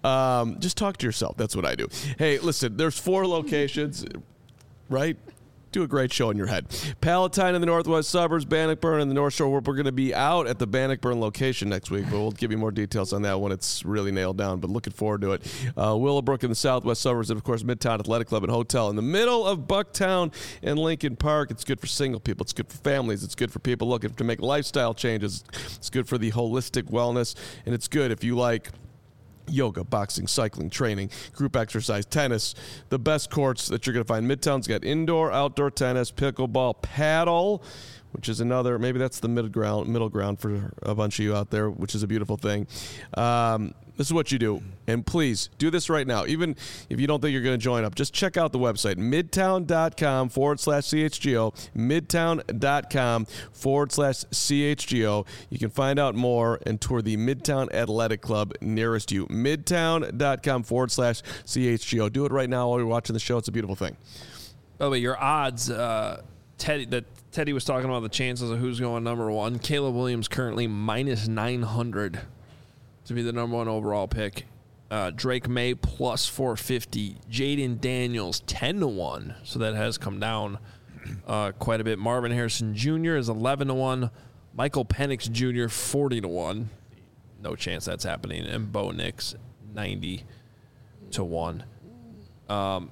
Just talk to yourself. That's what I do. Hey, listen, there's 4 locations, right? Do a great show in your head. Palatine in the northwest suburbs, Bannockburn in the North Shore. We're going to be out at the Bannockburn location next week, but we'll give you more details on that when it's really nailed down, but looking forward to it. Willowbrook in the southwest suburbs, and, of course, Midtown Athletic Club and Hotel in the middle of Bucktown and Lincoln Park. It's good for single people. It's good for families. It's good for people looking to make lifestyle changes. It's good for the holistic wellness, and it's good if you like yoga, boxing, cycling, training, group exercise, tennis, the best courts that you're going to find. Midtown's got indoor, outdoor tennis, pickleball, paddle, which is another, maybe that's the middle ground for a bunch of you out there, which is a beautiful thing. This is what you do. And please do this right now. Even if you don't think you're going to join up, just check out the website, midtown.com/CHGO, midtown.com/CHGO. You can find out more and tour the Midtown Athletic Club nearest you. Midtown.com/CHGO. Do it right now while you're watching the show. It's a beautiful thing. By the way, your odds, Teddy was talking about the chances of who's going number one. Caleb Williams currently minus 900 to be the number one overall pick. Drake May plus 450. Jaden Daniels 10-1. So that has come down quite a bit. Marvin Harrison Jr. is 11-1. Michael Penix Jr. 40-1. No chance that's happening. And Bo Nix 90-1. A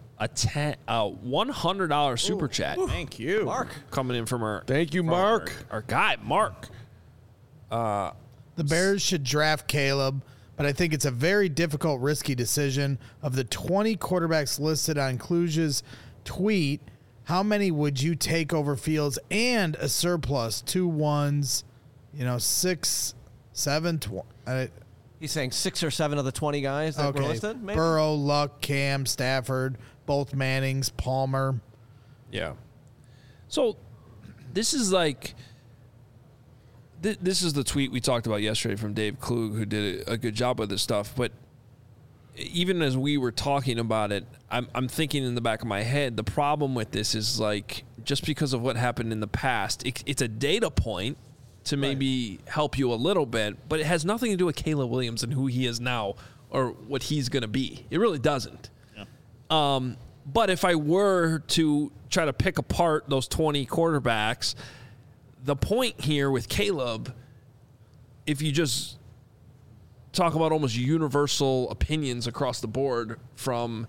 $100 super chat. Thank you, Mark. Coming in from our our guy Mark. The Bears should draft Caleb, but I think it's a very difficult, risky decision. Of the 20 quarterbacks listed on Kluge's tweet, how many would you take over Fields and a surplus? 2 1s, 6, 7, 20. He's saying 6 or 7 of the 20 guys that were listed, maybe? Burrow, Luck, Cam, Stafford, both Mannings, Palmer. Yeah. So this is like this is the tweet we talked about yesterday from Dave Klug, who did a good job with this stuff. But even as we were talking about it, I'm thinking in the back of my head, the problem with this is like just because of what happened in the past, it's a data point to maybe help you a little bit, but it has nothing to do with Caleb Williams and who he is now or what he's going to be. It really doesn't. Yeah. But if I were to try to pick apart those 20 quarterbacks, the point here with Caleb, if you just talk about almost universal opinions across the board from,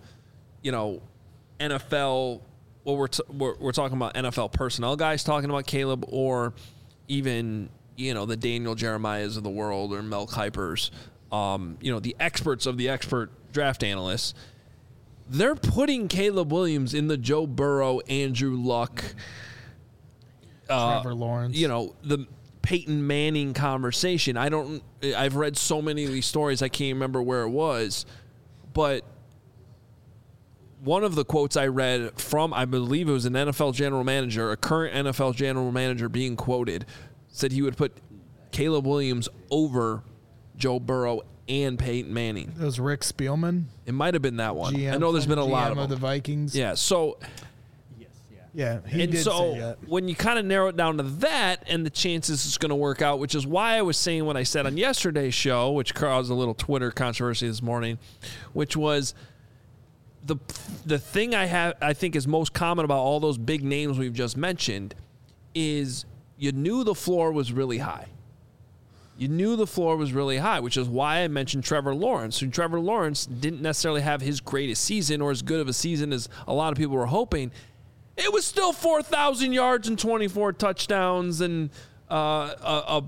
NFL, we're talking about NFL personnel guys talking about Caleb, or even, the Daniel Jeremiahs of the world or Mel Kipers, the experts of the expert draft analysts, they're putting Caleb Williams in the Joe Burrow, Andrew Luck, Trevor Lawrence. The Peyton Manning conversation. I've read so many of these stories, I can't remember where it was, but one of the quotes I read from, I believe it was an NFL general manager, a current NFL general manager being quoted, said he would put Caleb Williams over Joe Burrow and Peyton Manning. It was Rick Spielman. It might have been that one. GM, I know there's been a lot of them. the Vikings. Yeah, so... Yeah, he and did so say that. when you kind of narrow it down to that and the chances it's going to work out, which is why I was saying what I said on yesterday's show, which caused a little Twitter controversy this morning, which was the thing I think is most common about all those big names we've just mentioned is you knew the floor was really high. You knew the floor was really high, which is why I mentioned Trevor Lawrence. And Trevor Lawrence didn't necessarily have his greatest season or as good of a season as a lot of people were hoping. It was still 4,000 yards and 24 touchdowns and a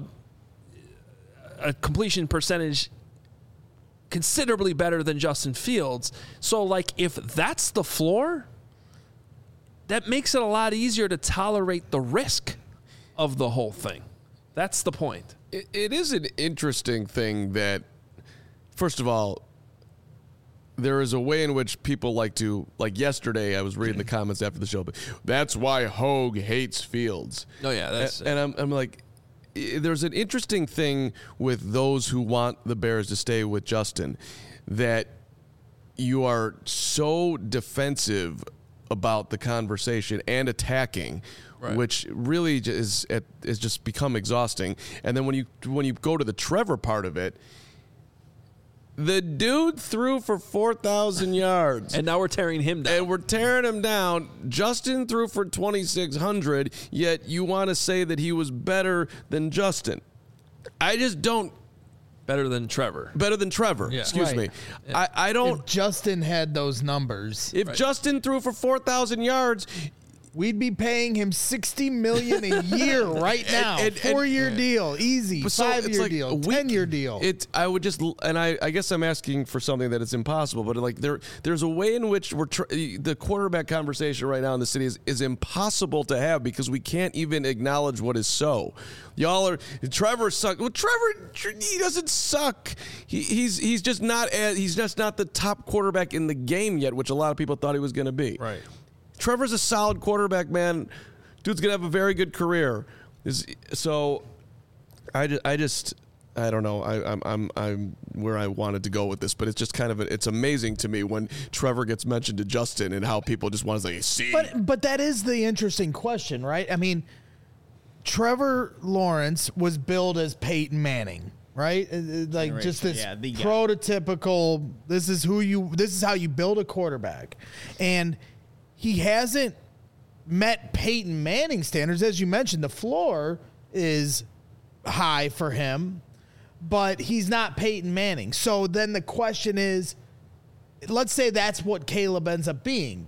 completion percentage considerably better than Justin Fields. So, if that's the floor, that makes it a lot easier to tolerate the risk of the whole thing. That's the point. It is an interesting thing that, first of all, there is a way in which people like yesterday I was reading the comments after the show, but that's why Hogue hates Fields. Oh yeah, that's and I'm like, there's an interesting thing with those who want the Bears to stay with Justin, that you are so defensive about the conversation and attacking, right, which really is just become exhausting. And then when you go to the Trevor part of it, the dude threw for 4,000 yards. And now we're tearing him down. And we're tearing him down. Justin threw for 2,600, yet you want to say that he was better than Justin. I just don't. Better than Trevor. Yeah. Excuse me. Yeah. I don't. If Justin had those numbers. If Justin threw for 4,000 yards, we'd be paying him $60 million a year right now. 4-year deal, easy. So 5-year deal, 10-year deal. I would just, and I guess I'm asking for something that is impossible, but like there's a way in which the quarterback conversation right now in the city is impossible to have because we can't even acknowledge what is so. Y'all are Trevor suck. Well, Trevor, he doesn't suck. He's just not the top quarterback in the game yet, which a lot of people thought he was going to be. Right. Trevor's a solid quarterback, man. Dude's gonna have a very good career. So, I don't know. I'm where I wanted to go with this, but it's just kind of it's amazing to me when Trevor gets mentioned to Justin and how people just want to say, see. But that is the interesting question, right? I mean, Trevor Lawrence was billed as Peyton Manning, right? Like just this prototypical. This is how you build a quarterback, and he hasn't met Peyton Manning standards. As you mentioned, the floor is high for him, but he's not Peyton Manning. So then the question is, let's say that's what Caleb ends up being,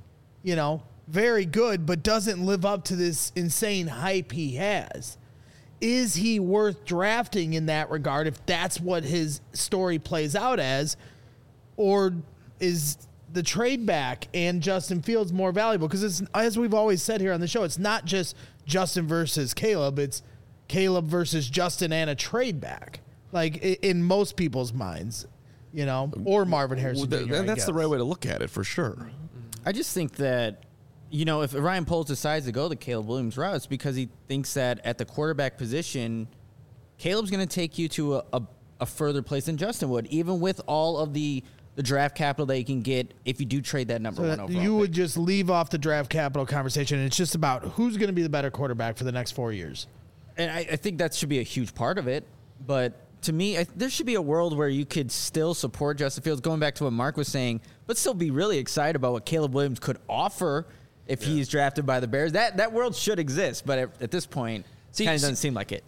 very good, but doesn't live up to this insane hype he has. Is he worth drafting in that regard if that's what his story plays out as, or is the trade back and Justin Fields more valuable? Because it's, as we've always said here on the show, it's not just Justin versus Caleb. It's Caleb versus Justin and a trade back, like in most people's minds, or Marvin Harrison Jr., And that's the right way to look at it for sure. I just think that, if Ryan Poles decides to go the Caleb Williams route, it's because he thinks that at the quarterback position, Caleb's going to take you to a further place than Justin would, even with all of the draft capital that you can get if you do trade that number one overall. You would just leave off the draft capital conversation, and it's just about who's going to be the better quarterback for the next 4 years. And I think that should be a huge part of it. But to me, there should be a world where you could still support Justin Fields, going back to what Mark was saying, but still be really excited about what Caleb Williams could offer if he's drafted by the Bears. That world should exist, but at this point, it kind of doesn't seem like it.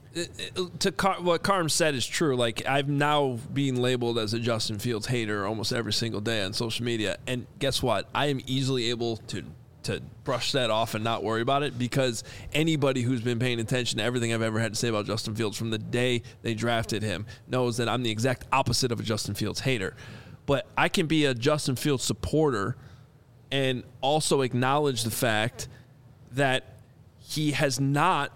What Carm said is true. Like, I'm now being labeled as a Justin Fields hater almost every single day on social media. And guess what? I am easily able to brush that off and not worry about it, because anybody who's been paying attention to everything I've ever had to say about Justin Fields from the day they drafted him knows that I'm the exact opposite of a Justin Fields hater. But I can be a Justin Fields supporter and also acknowledge the fact that he has not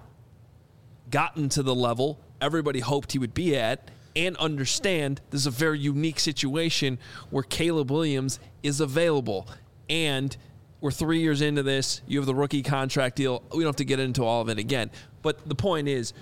gotten to the level everybody hoped he would be at, and understand this is a very unique situation where Caleb Williams is available. And we're 3 years into this. You have the rookie contract deal. We don't have to get into all of it again. But the point is,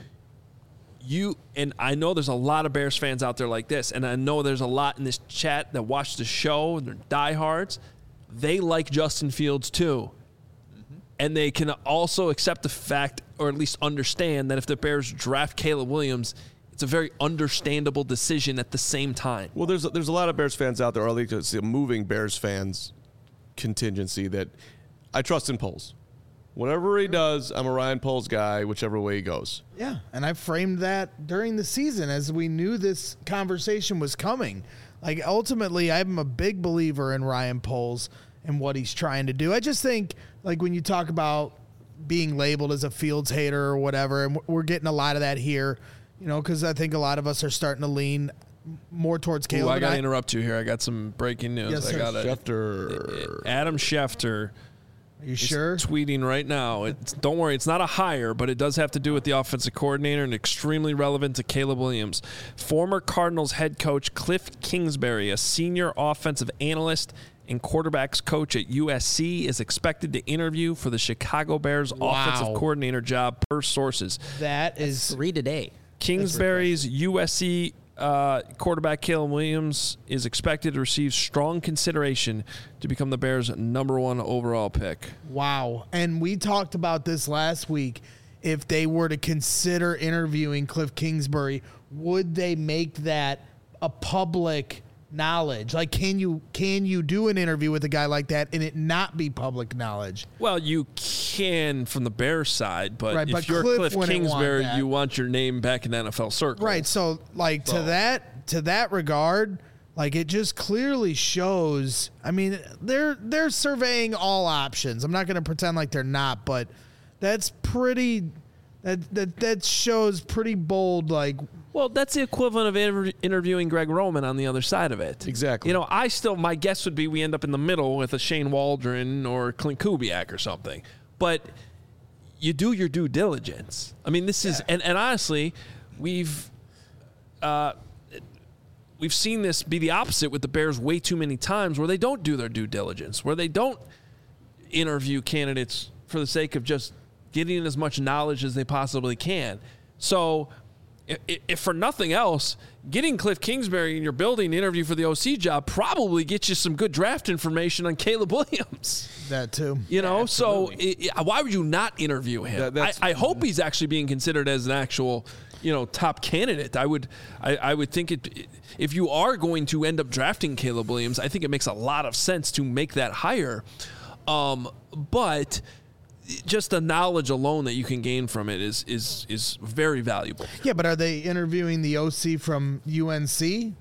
and I know there's a lot of Bears fans out there like this, and I know there's a lot in this chat that watch the show, and they're diehards. They like Justin Fields too. And they can also accept the fact, or at least understand, that if the Bears draft Caleb Williams, it's a very understandable decision at the same time. Well, there's a lot of Bears fans out there, or at least a moving Bears fans contingency, that I trust in Poles. Whatever he does, I'm a Ryan Poles guy, whichever way he goes. Yeah, and I framed that during the season as we knew this conversation was coming. Like, ultimately, I'm a big believer in Ryan Poles and what he's trying to do. I just think, like, when you talk about being labeled as a Fields hater or whatever, and we're getting a lot of that here, because I think a lot are starting to lean more towards Caleb. I got to interrupt you here. I got some breaking news. Yes, Schefter. Adam Schefter. Are you sure? Tweeting right now. Don't worry, it's not a hire, but it does have to do with the offensive coordinator and extremely relevant to Caleb Williams. Former Cardinals head coach Cliff Kingsbury, a senior offensive analyst and quarterbacks coach at USC, is expected to interview for the Chicago Bears offensive coordinator job, per sources. That's 3 today. Kingsbury's USC quarterback Caleb Williams is expected to receive strong consideration to become the Bears' #1 overall pick. Wow. And we talked about this last week. If they were to consider interviewing Cliff Kingsbury, would they make that a public knowledge? Like, can you do an interview with a guy like that and it not be public knowledge? Well, you can from the Bears side, but right, if but you're Cliff Kingsbury, you want your name back in the NFL circle. Right. So, like, to that regard, Like, it just clearly shows. I mean, they're surveying all options. I'm not going to pretend like they're not, but that's pretty. That shows pretty bold. Like, well, that's the equivalent of interviewing Greg Roman on the other side of it. Exactly. You know, my guess would be we end up in the middle with a Shane Waldron or Clint Kubiak or something. But you do your due diligence. I mean, this is, and honestly, we've seen this be the opposite with the Bears way too many times, where they don't do their due diligence, where they don't interview candidates for the sake of just getting as much knowledge as they possibly can. So if for nothing else, getting Cliff Kingsbury in your building to interview for the OC job probably gets you some good draft information on Caleb Williams. that too. You know, so why would you not interview him? I hope he's actually being considered as an actual, top candidate. I would think if you are going to end up drafting Caleb Williams, I think it makes a lot of sense to make that hire. But just the knowledge alone that you can gain from it is very valuable. Yeah, but are they interviewing the OC from UNC?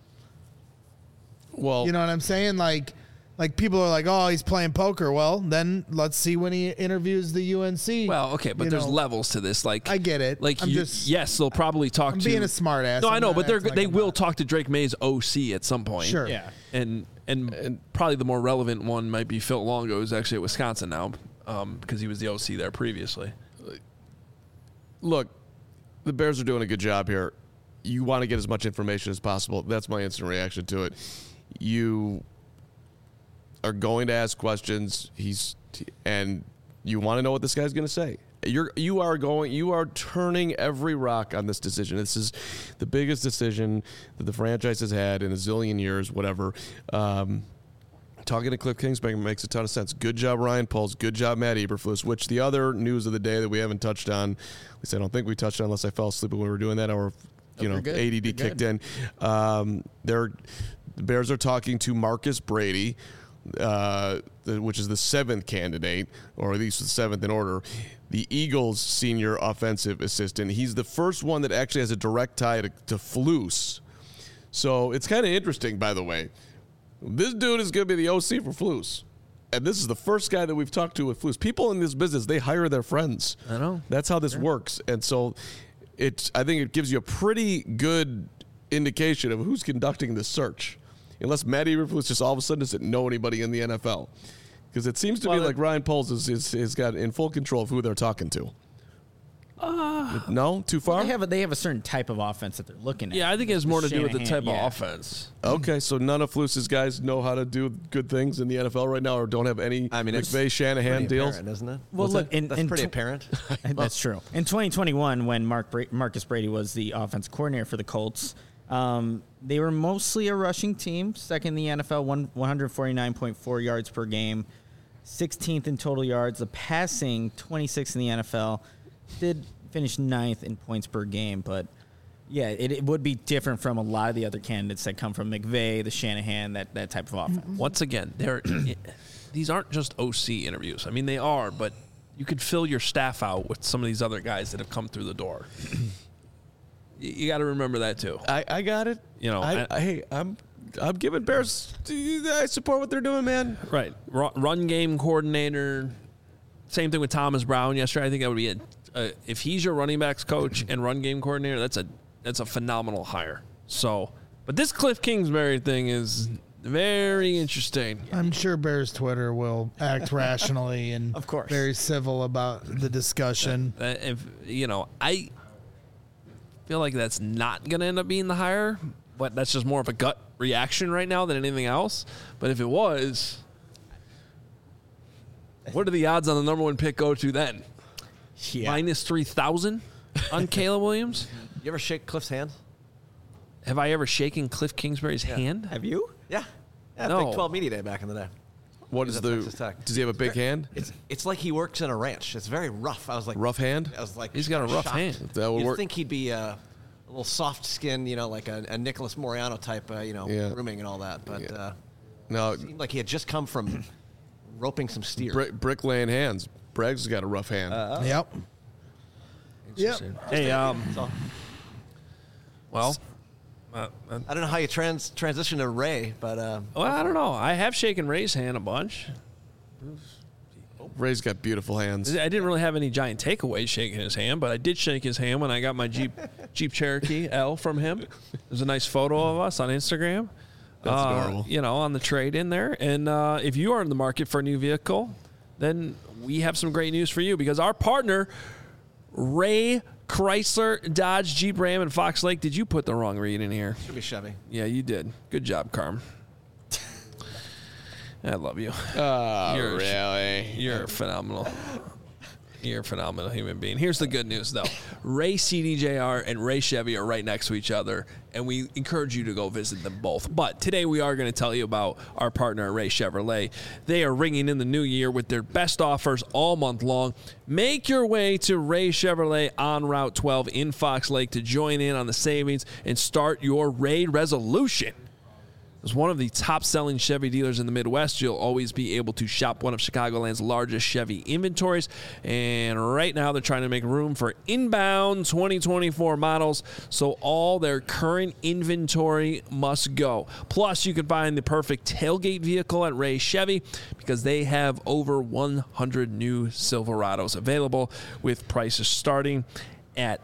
Well, You know what I'm saying? Like people are like, oh, he's playing poker. Well, then let's see when he interviews the UNC. Well, okay, but there's levels to this. Like, I get it. Like, yes, they'll probably talk to. Being a smart ass. No, I know, I'm but not acting they like will I'm not. talk to Drake May's OC at some point. Sure. Yeah. And probably the more relevant one might be Phil Longo, who's actually at Wisconsin now, because he was the OC there previously. look, the Bears are doing a good job here. You want to get as much information as possible. That's my instant reaction to it. You are going to ask questions. And you want to know what this guy's going to say. You are turning every rock on this decision. This is the biggest decision that the franchise has had in a zillion years, whatever. Talking to Cliff Kingsbury makes a ton of sense. Good job, Ryan Poles. Good job, Matt Eberflus. Which the other news of the day that we haven't touched on, at least I don't think we touched on unless I fell asleep when we were doing that, or ADD kicked in. The Bears are talking to Marcus Brady, which is the seventh candidate, or at least the seventh in order, the Eagles' senior offensive assistant. He's the first one that actually has a direct tie to Flus. So it's kind of interesting, by the way. This dude is going to be the OC for Flus. And this is the first guy that we've talked to with Flus. People in this business, they hire their friends. I know. That's how this works. And so I think it gives you a pretty good indication of who's conducting this search. Unless Matt Eberflus just all of a sudden doesn't know anybody in the NFL. Because it seems to be like Ryan Poles is got in full control of who they're talking to. No? Too far? They have a certain type of offense that they're looking at. Yeah, I think it has more to do with the type Shanahan, of offense. Okay, so none of Flus's guys know how to do good things in the NFL right now, or don't have any McVay Shanahan deals? Apparent, isn't it? Well, look, that's pretty apparent. That's true. In 2021, when Marcus Brady was the offensive coordinator for the Colts, they were mostly a rushing team, second in the NFL, 149.4 yards per game, 16th in total yards. The passing, 26th in the NFL, did finish 9th in points per game. But, yeah, it would be different from a lot of the other candidates that come from McVay, the Shanahan, that type of offense. Once again, these aren't just OC interviews. I mean, they are, but you could fill your staff out with some of these other guys that have come through the door. You got to remember that too. I got it. I'm giving Bears. I support what they're doing, man. Right. Run game coordinator. Same thing with Thomas Brown yesterday. I think that would be if he's your running backs coach and run game coordinator, that's a phenomenal hire. So, but this Cliff Kingsbury thing is very interesting. I'm sure Bears Twitter will act rationally and Of course. very civil about the discussion. I feel like that's not going to end up being the hire, but that's just more of a gut reaction right now than anything else. But if it was, what are the odds on the number one pick go to then? Yeah. Minus 3,000 on Caleb Williams? You ever shake Cliff's hand? Have I ever shaken Cliff Kingsbury's hand? Have you? Yeah. No. Big 12 Media Day back in the day. What is He's at Texas Tech. Does he have a big hand? It's like he works in a ranch. It's very rough. I was like, Rough hand? I was like, He's got a rough shocked. hand. That would You'd work. think he'd be a little soft skinned, like a Nicholas Moriano type, grooming and all that. But No, it seemed like he had just come from roping some steer. bricklaying hands. Bragg's got a rough hand. Yep. Hey, well, I don't know how you transition to Ray, but well, I don't know. I have shaken Ray's hand a bunch. Ray's got beautiful hands. I didn't really have any giant takeaways shaking his hand, but I did shake his hand when I got my Jeep Cherokee L from him. There's a nice photo of us on Instagram. That's adorable. You know, on the trade in there. And if you are in the market for a new vehicle, then we have some great news for you because our partner, Ray Chrysler, Dodge, Jeep, Ram, and Fox Lake. Did you put the wrong read in here? should be Chevy. Yeah, you did. Good job, Carm. I love you. Really? You're phenomenal. You're a phenomenal human being. Here's the good news, though. Ray CDJR and Ray Chevy are right next to each other, and we encourage you to go visit them both. But today we are going to tell you about our partner, Ray Chevrolet. They are ringing in the new year with their best offers all month long. Make your way to Ray Chevrolet on Route 12 in Fox Lake to join in on the savings and start your Ray resolution. As one of the top-selling Chevy dealers in the Midwest, you'll always be able to shop one of Chicagoland's largest Chevy inventories. And right now, they're trying to make room for inbound 2024 models, so all their current inventory must go. Plus, you can find the perfect tailgate vehicle at Ray Chevy because they have over 100 new Silverados available with prices starting at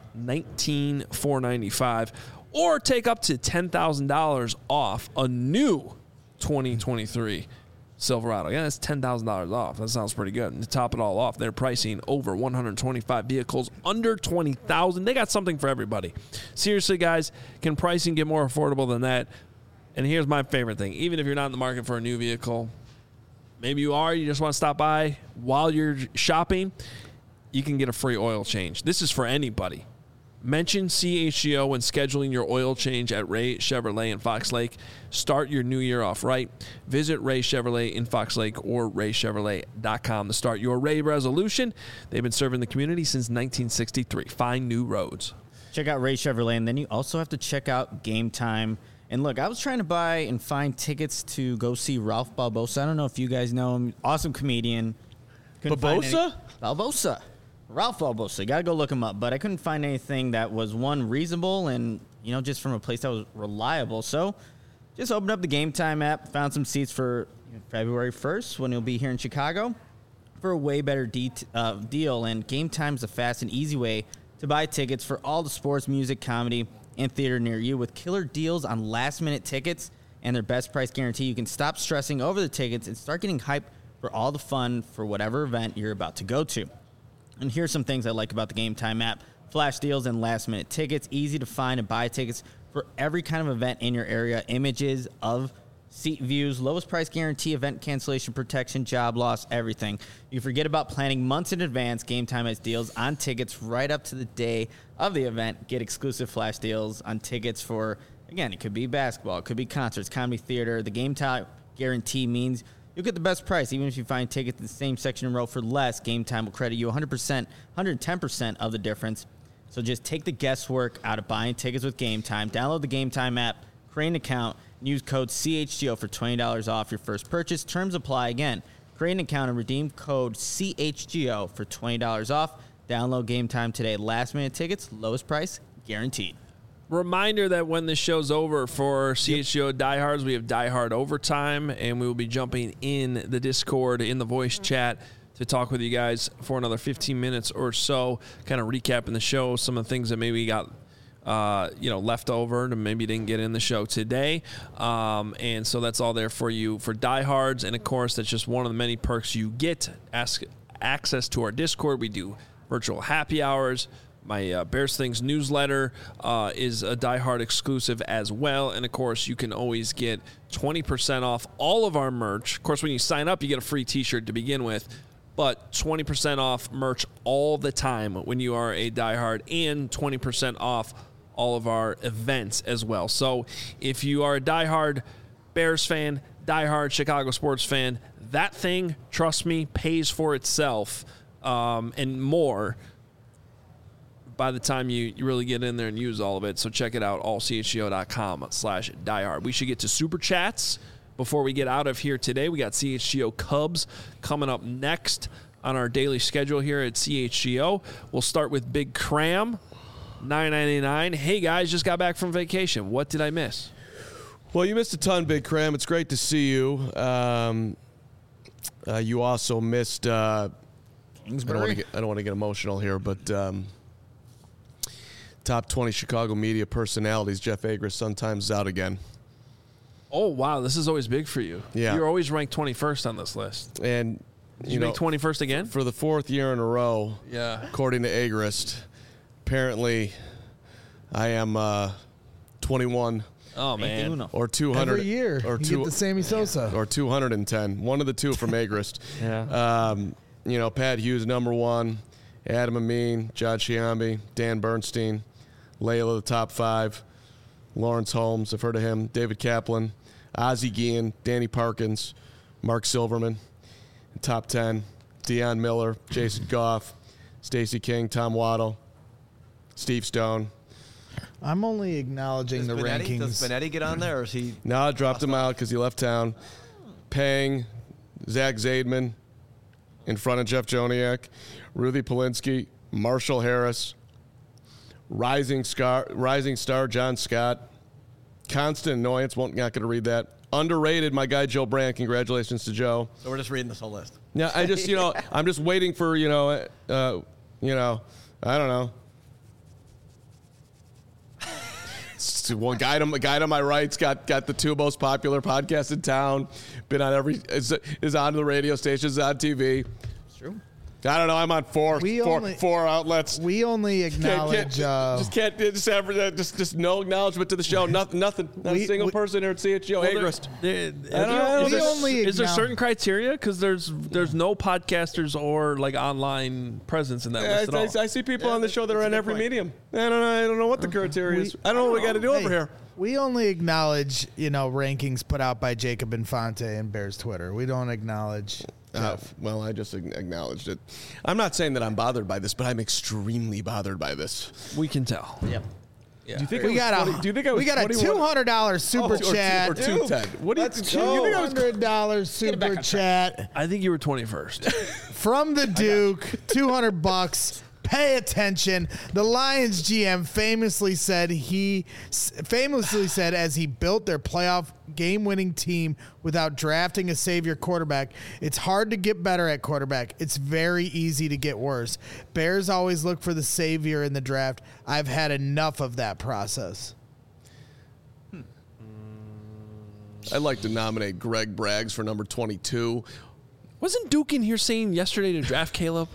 $19,495. Or take up to $10,000 off a new 2023 Silverado. Yeah, that's $10,000 off. That sounds pretty good. And to top it all off, they're pricing over 125 vehicles under $20,000. They got something for everybody. Seriously, guys, can pricing get more affordable than that? And here's my favorite thing. Even if you're not in the market for a new vehicle, maybe you are, you just want to stop by while you're shopping, you can get a free oil change. This is for anybody. Mention CHGO when scheduling your oil change at Ray Chevrolet in Fox Lake. Start your new year off right. Visit Ray Chevrolet in Fox Lake or raychevrolet.com to start your Ray resolution. They've been serving the community since 1963. Find new roads. Check out Ray Chevrolet, and then you also have to check out Game Time. And look, I was trying to buy and find tickets to go see Ralph Balbosa. I don't know if you guys know him. Awesome comedian. Balbosa? Balbosa. Ralph Balbosa. You got to go look him up. But I couldn't find anything that was, one, reasonable and, you know, just from a place that was reliable. So just opened up the Game Time app, found some seats for February 1st when he'll be here in Chicago for a way better deal. And Game Time is a fast and easy way to buy tickets for all the sports, music, comedy, and theater near you. With killer deals on last-minute tickets and their best price guarantee, you can stop stressing over the tickets and start getting hyped for all the fun for whatever event you're about to go to. And here's some things I like about the Game Time app. Flash deals and last-minute tickets. Easy to find and buy tickets for every kind of event in your area. Images of seat views, lowest price guarantee, event cancellation protection, job loss, everything. You forget about planning months in advance. Game Time has deals on tickets right up to the day of the event. Get exclusive flash deals on tickets for, again, it could be basketball, it could be concerts, comedy, theater. The Game Time guarantee means you'll get the best price. Even if you find tickets in the same section and row for less, Game Time will credit you 100%, 110% of the difference. So just take the guesswork out of buying tickets with Game Time. Download the Game Time app, create an account, and use code CHGO for $20 off your first purchase. Terms apply. Again, create an account and redeem code CHGO for $20 off. Download Game Time today. Last-minute tickets, lowest price, guaranteed. Reminder that when this show's over for CHGO Diehards, we have Die Hard Overtime, and we will be jumping in the Discord, in the voice chat, to talk with you guys for another 15 minutes or so, kind of recapping the show, some of the things that maybe got left over and maybe didn't get in the show today. And so that's all there for you for Diehards. And, of course, that's just one of the many perks you get. Access to our Discord. We do virtual happy hours. My Bears Things newsletter is a Die Hard exclusive as well. And, of course, you can always get 20% off all of our merch. Of course, when you sign up, you get a free T-shirt to begin with. But 20% off merch all the time when you are a Die Hard, and 20% off all of our events as well. So if you are a Die Hard Bears fan, Die Hard Chicago sports fan, that thing, trust me, pays for itself and more by the time you really get in there and use all of it. So check it out, allchgo.com/diehard. We should get to Super Chats before we get out of here today. We got CHGO Cubs coming up next on our daily schedule here at CHGO. We'll start with Big Cram. $9.99. Hey guys, just got back from vacation. What did I miss? Well, you missed a ton, Big Cram. It's great to see you. You also missed. I don't want to get emotional here, but top 20 Chicago media personalities. Jeff Agrest sometimes is out again. Oh wow, this is always big for you. Yeah, you're always ranked 21st on this list. And Did you make 21st again for the 4th year in a row. Yeah, according to Agrest, apparently, I am 21. Oh man, or 200 every year. Or you get the Sammy Sosa, or 210. One of the two from Agrest. Yeah. Pat Hughes number 1, Adam Amin, John Chiambi, Dan Bernstein, Layla the top 5, Lawrence Holmes, I've heard of him, David Kaplan, Ozzie Guillen, Danny Parkins, Mark Silverman, top 10, Deion Miller, Jason Goff, Stacey King, Tom Waddle, Steve Stone. I'm only acknowledging the rankings. Does Benetti get on there, or is he? No, I dropped him out because he left town. Pang, Zach Zaidman, in front of Jeff Joniak, Ruthie Polinsky, Marshall Harris, rising star John Scott, constant annoyance. Not going to read that. Underrated, my guy Joe Brandt. Congratulations to Joe. So we're just reading this whole list. Yeah, I just I'm just waiting for I don't know. One guy to my right's got the 2 most popular podcasts in town. Been on is on the radio stations, on TV. It's true. I don't know. I'm on four outlets. We only acknowledge. Just no acknowledgement to the show. Nothing. Not a single person here at CHGO Agrest. Is there certain criteria? Because there's no podcasters or like online presence in that list at all. I see people on the show that are on every medium. I don't know what the criteria is. I don't know what we got to do over here. We only acknowledge rankings put out by Jacob Infante and Bears Twitter. We don't acknowledge. Well, I just acknowledged it. I'm not saying that I'm bothered by this, but I'm extremely bothered by this. We can tell. Yep. Yeah. Do you think We got a $200 super chat. Or 210. What do you That's think? $200 super chat I think you were 21st. from the Duke. $200. Pay attention. The Lions GM famously said as he built their playoff game-winning team without drafting a savior quarterback, it's hard to get better at quarterback. It's very easy to get worse. Bears always look for the savior in the draft. I've had enough of that process. I'd like to nominate Greg Braggs for number 22. Wasn't Duke in here saying yesterday to draft Caleb?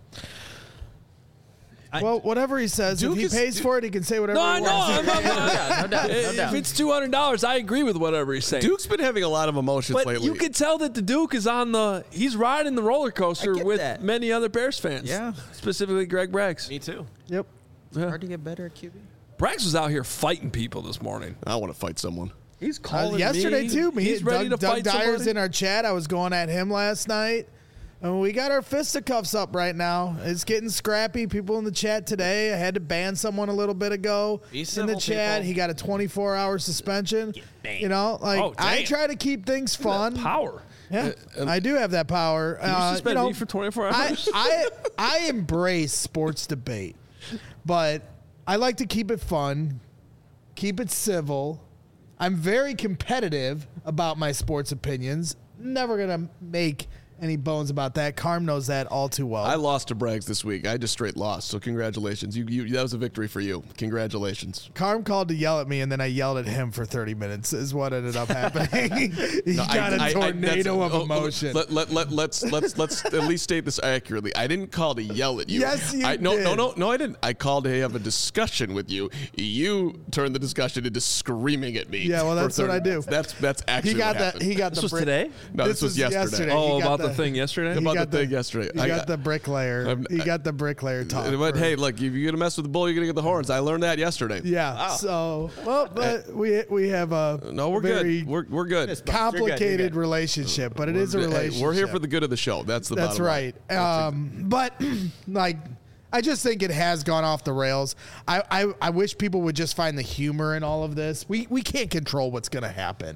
Well, whatever he says, Duke if he pays for it, he can say whatever he wants. No doubt. If it's $200, I agree with whatever he's saying. Duke's been having a lot of emotions But lately. you can tell that the Duke is he's riding the roller coaster with that. many other Bears fans. Yeah. Specifically Greg Braggs. Me too. Yep. Hard to get better at QB. Braggs was out here fighting people this morning. I want to fight someone. He's calling yesterday me. too. He's ready to Doug fight Dyer's somebody. in our chat. I was going at him last night. And we got our fisticuffs up right now. It's getting scrappy. People in the chat today. I had to ban someone a little bit ago in the chat. People. He got a 24-hour suspension. I try to keep things fun. Power. Yeah, I do have that power. You suspend me for 24 hours. I embrace sports debate, but I like to keep it fun, keep it civil. I'm very competitive about my sports opinions. Never gonna make any bones about that. Carm knows that all too well. I lost to Braggs this week. I just straight lost. So congratulations. You that was a victory for you. Congratulations. Carm called to yell at me, and then I yelled at him for 30 minutes. Is what ended up happening. He got a tornado of emotion. Let's at least state this accurately. I didn't call to yell at you. Yes, you did. No, I didn't. I called to have a discussion with you. You turned the discussion into screaming at me. Yeah, well, that's what I do. That's actually what happened. He got This the was today? No, this was yesterday. Oh, He got about the thing yesterday? About the thing yesterday. He got the bricklayer. He got the bricklayer talk. But hey, look, if you're gonna mess with the bull, you're gonna get the horns. I learned that yesterday. Yeah. Wow. So, but we have a No, we're very good. We're good. complicated You're good. relationship, but it is a relationship. We're here for the good of the show. That's the That's bottom right. line. But like, I just think it has gone off the rails. I wish people would just find the humor in all of this. We can't control what's going to happen.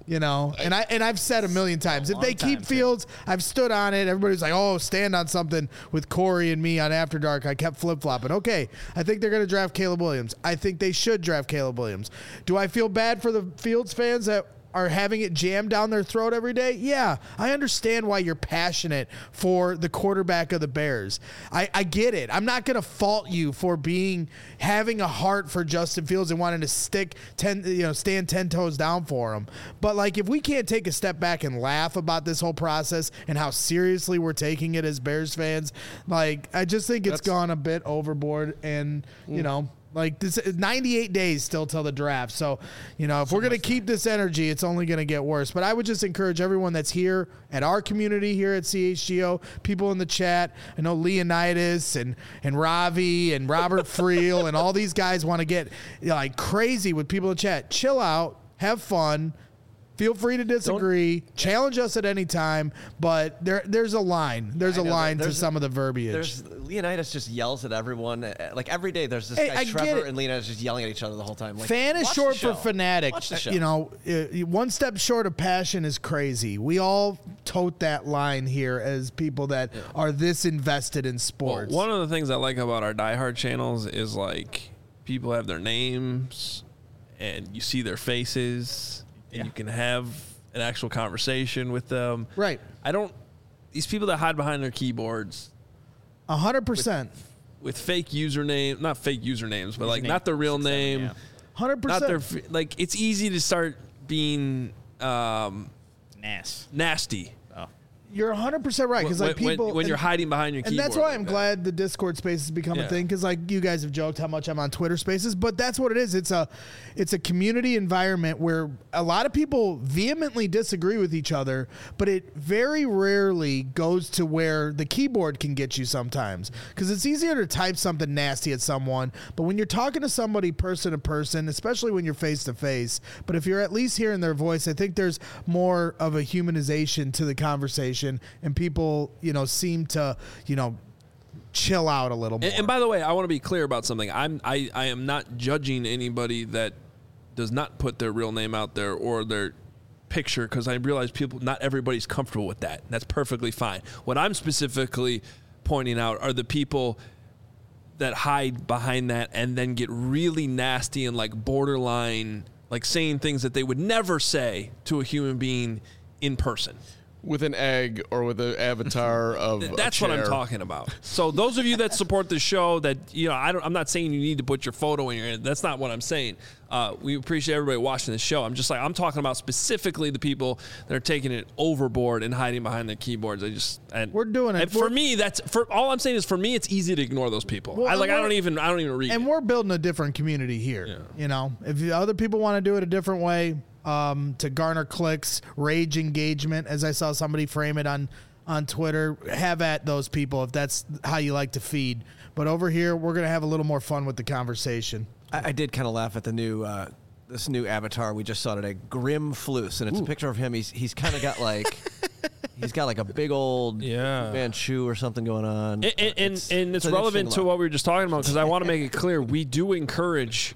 You know, and I've said a million times, if they keep time, Fields, I've stood on it. Everybody's like, oh, stand on something with Corey and me on After Dark. I kept flip-flopping. Okay, I think they're going to draft Caleb Williams. I think they should draft Caleb Williams. Do I feel bad for the Fields fans that are having it jammed down their throat every day? Yeah, I understand why you're passionate for the quarterback of the Bears. I get it. I'm not going to fault you for having a heart for Justin Fields and wanting to stand 10 toes down for him. But like, if we can't take a step back and laugh about this whole process and how seriously we're taking it as Bears fans, like, I just think it's gone a bit overboard. And you know, like, this 98 days still till the draft. So, you know, if we're going to keep this energy, it's only going to get worse. But I would just encourage everyone that's here at our community here at CHGO, people in the chat. I know Leonidas and Ravi and Robert Friel and all these guys want to get like crazy with people in the chat. Chill out, have fun. Feel free to disagree. Challenge us at any time, but there's a line. There's a line to some of the verbiage. Leonidas just yells at everyone. Like, every day there's this guy Trevor and Leonidas just yelling at each other the whole time. Like, fan is short for fanatic. Watch the show. You know, one step short of passion is crazy. We all tote that line here as people that are this invested in sports. Well, one of the things I like about our diehard channels is, like, people have their names and you see their faces. And you can have an actual conversation with them. Right. These people that hide behind their keyboards. 100%. With fake username, not fake usernames, but like not their real name. 100%. Not their, like, it's easy to start being nasty. You're 100% right, because like people when you're hiding behind your keyboard, and that's why I'm glad the Discord Spaces has become a thing, because like you guys have joked how much I'm on Twitter Spaces, but that's what it is. It's a community environment where a lot of people vehemently disagree with each other, but it very rarely goes to where the keyboard can get you sometimes, because it's easier to type something nasty at someone, but when you're talking to somebody person to person, especially when you're face to face, but if you're at least hearing their voice, I think there's more of a humanization to the conversation. And people, you know, seem to, you know, chill out a little more. And by the way, I want to be clear about something. I am not judging anybody that does not put their real name out there or their picture, because I realize not everybody's comfortable with that. That's perfectly fine. What I'm specifically pointing out are the people that hide behind that and then get really nasty and like borderline, like saying things that they would never say to a human being in person. With an egg or with an avatar of That's what I'm talking about. So those of you that support the show, that, you know, I'm not saying you need to put your photo in your. That's not what I'm saying. We appreciate everybody watching the show. I'm just like, I'm talking about specifically the people that are taking it overboard and hiding behind their keyboards. We're doing it. And for me, all I'm saying is, for me, it's easy to ignore those people. Well, I don't even read. And we're building a different community here. Yeah. You know, if other people want to do it a different way, to garner clicks, rage engagement, as I saw somebody frame it on Twitter, have at those people if that's how you like to feed. But over here, we're going to have a little more fun with the conversation. I did kind of laugh at the new this new avatar we just saw today, Grim Floose, and it's a picture of him. He's kind of got like he's got like a big old Manchu or something going on. And it's relevant to what we were just talking about, because I want to make it clear, we do encourage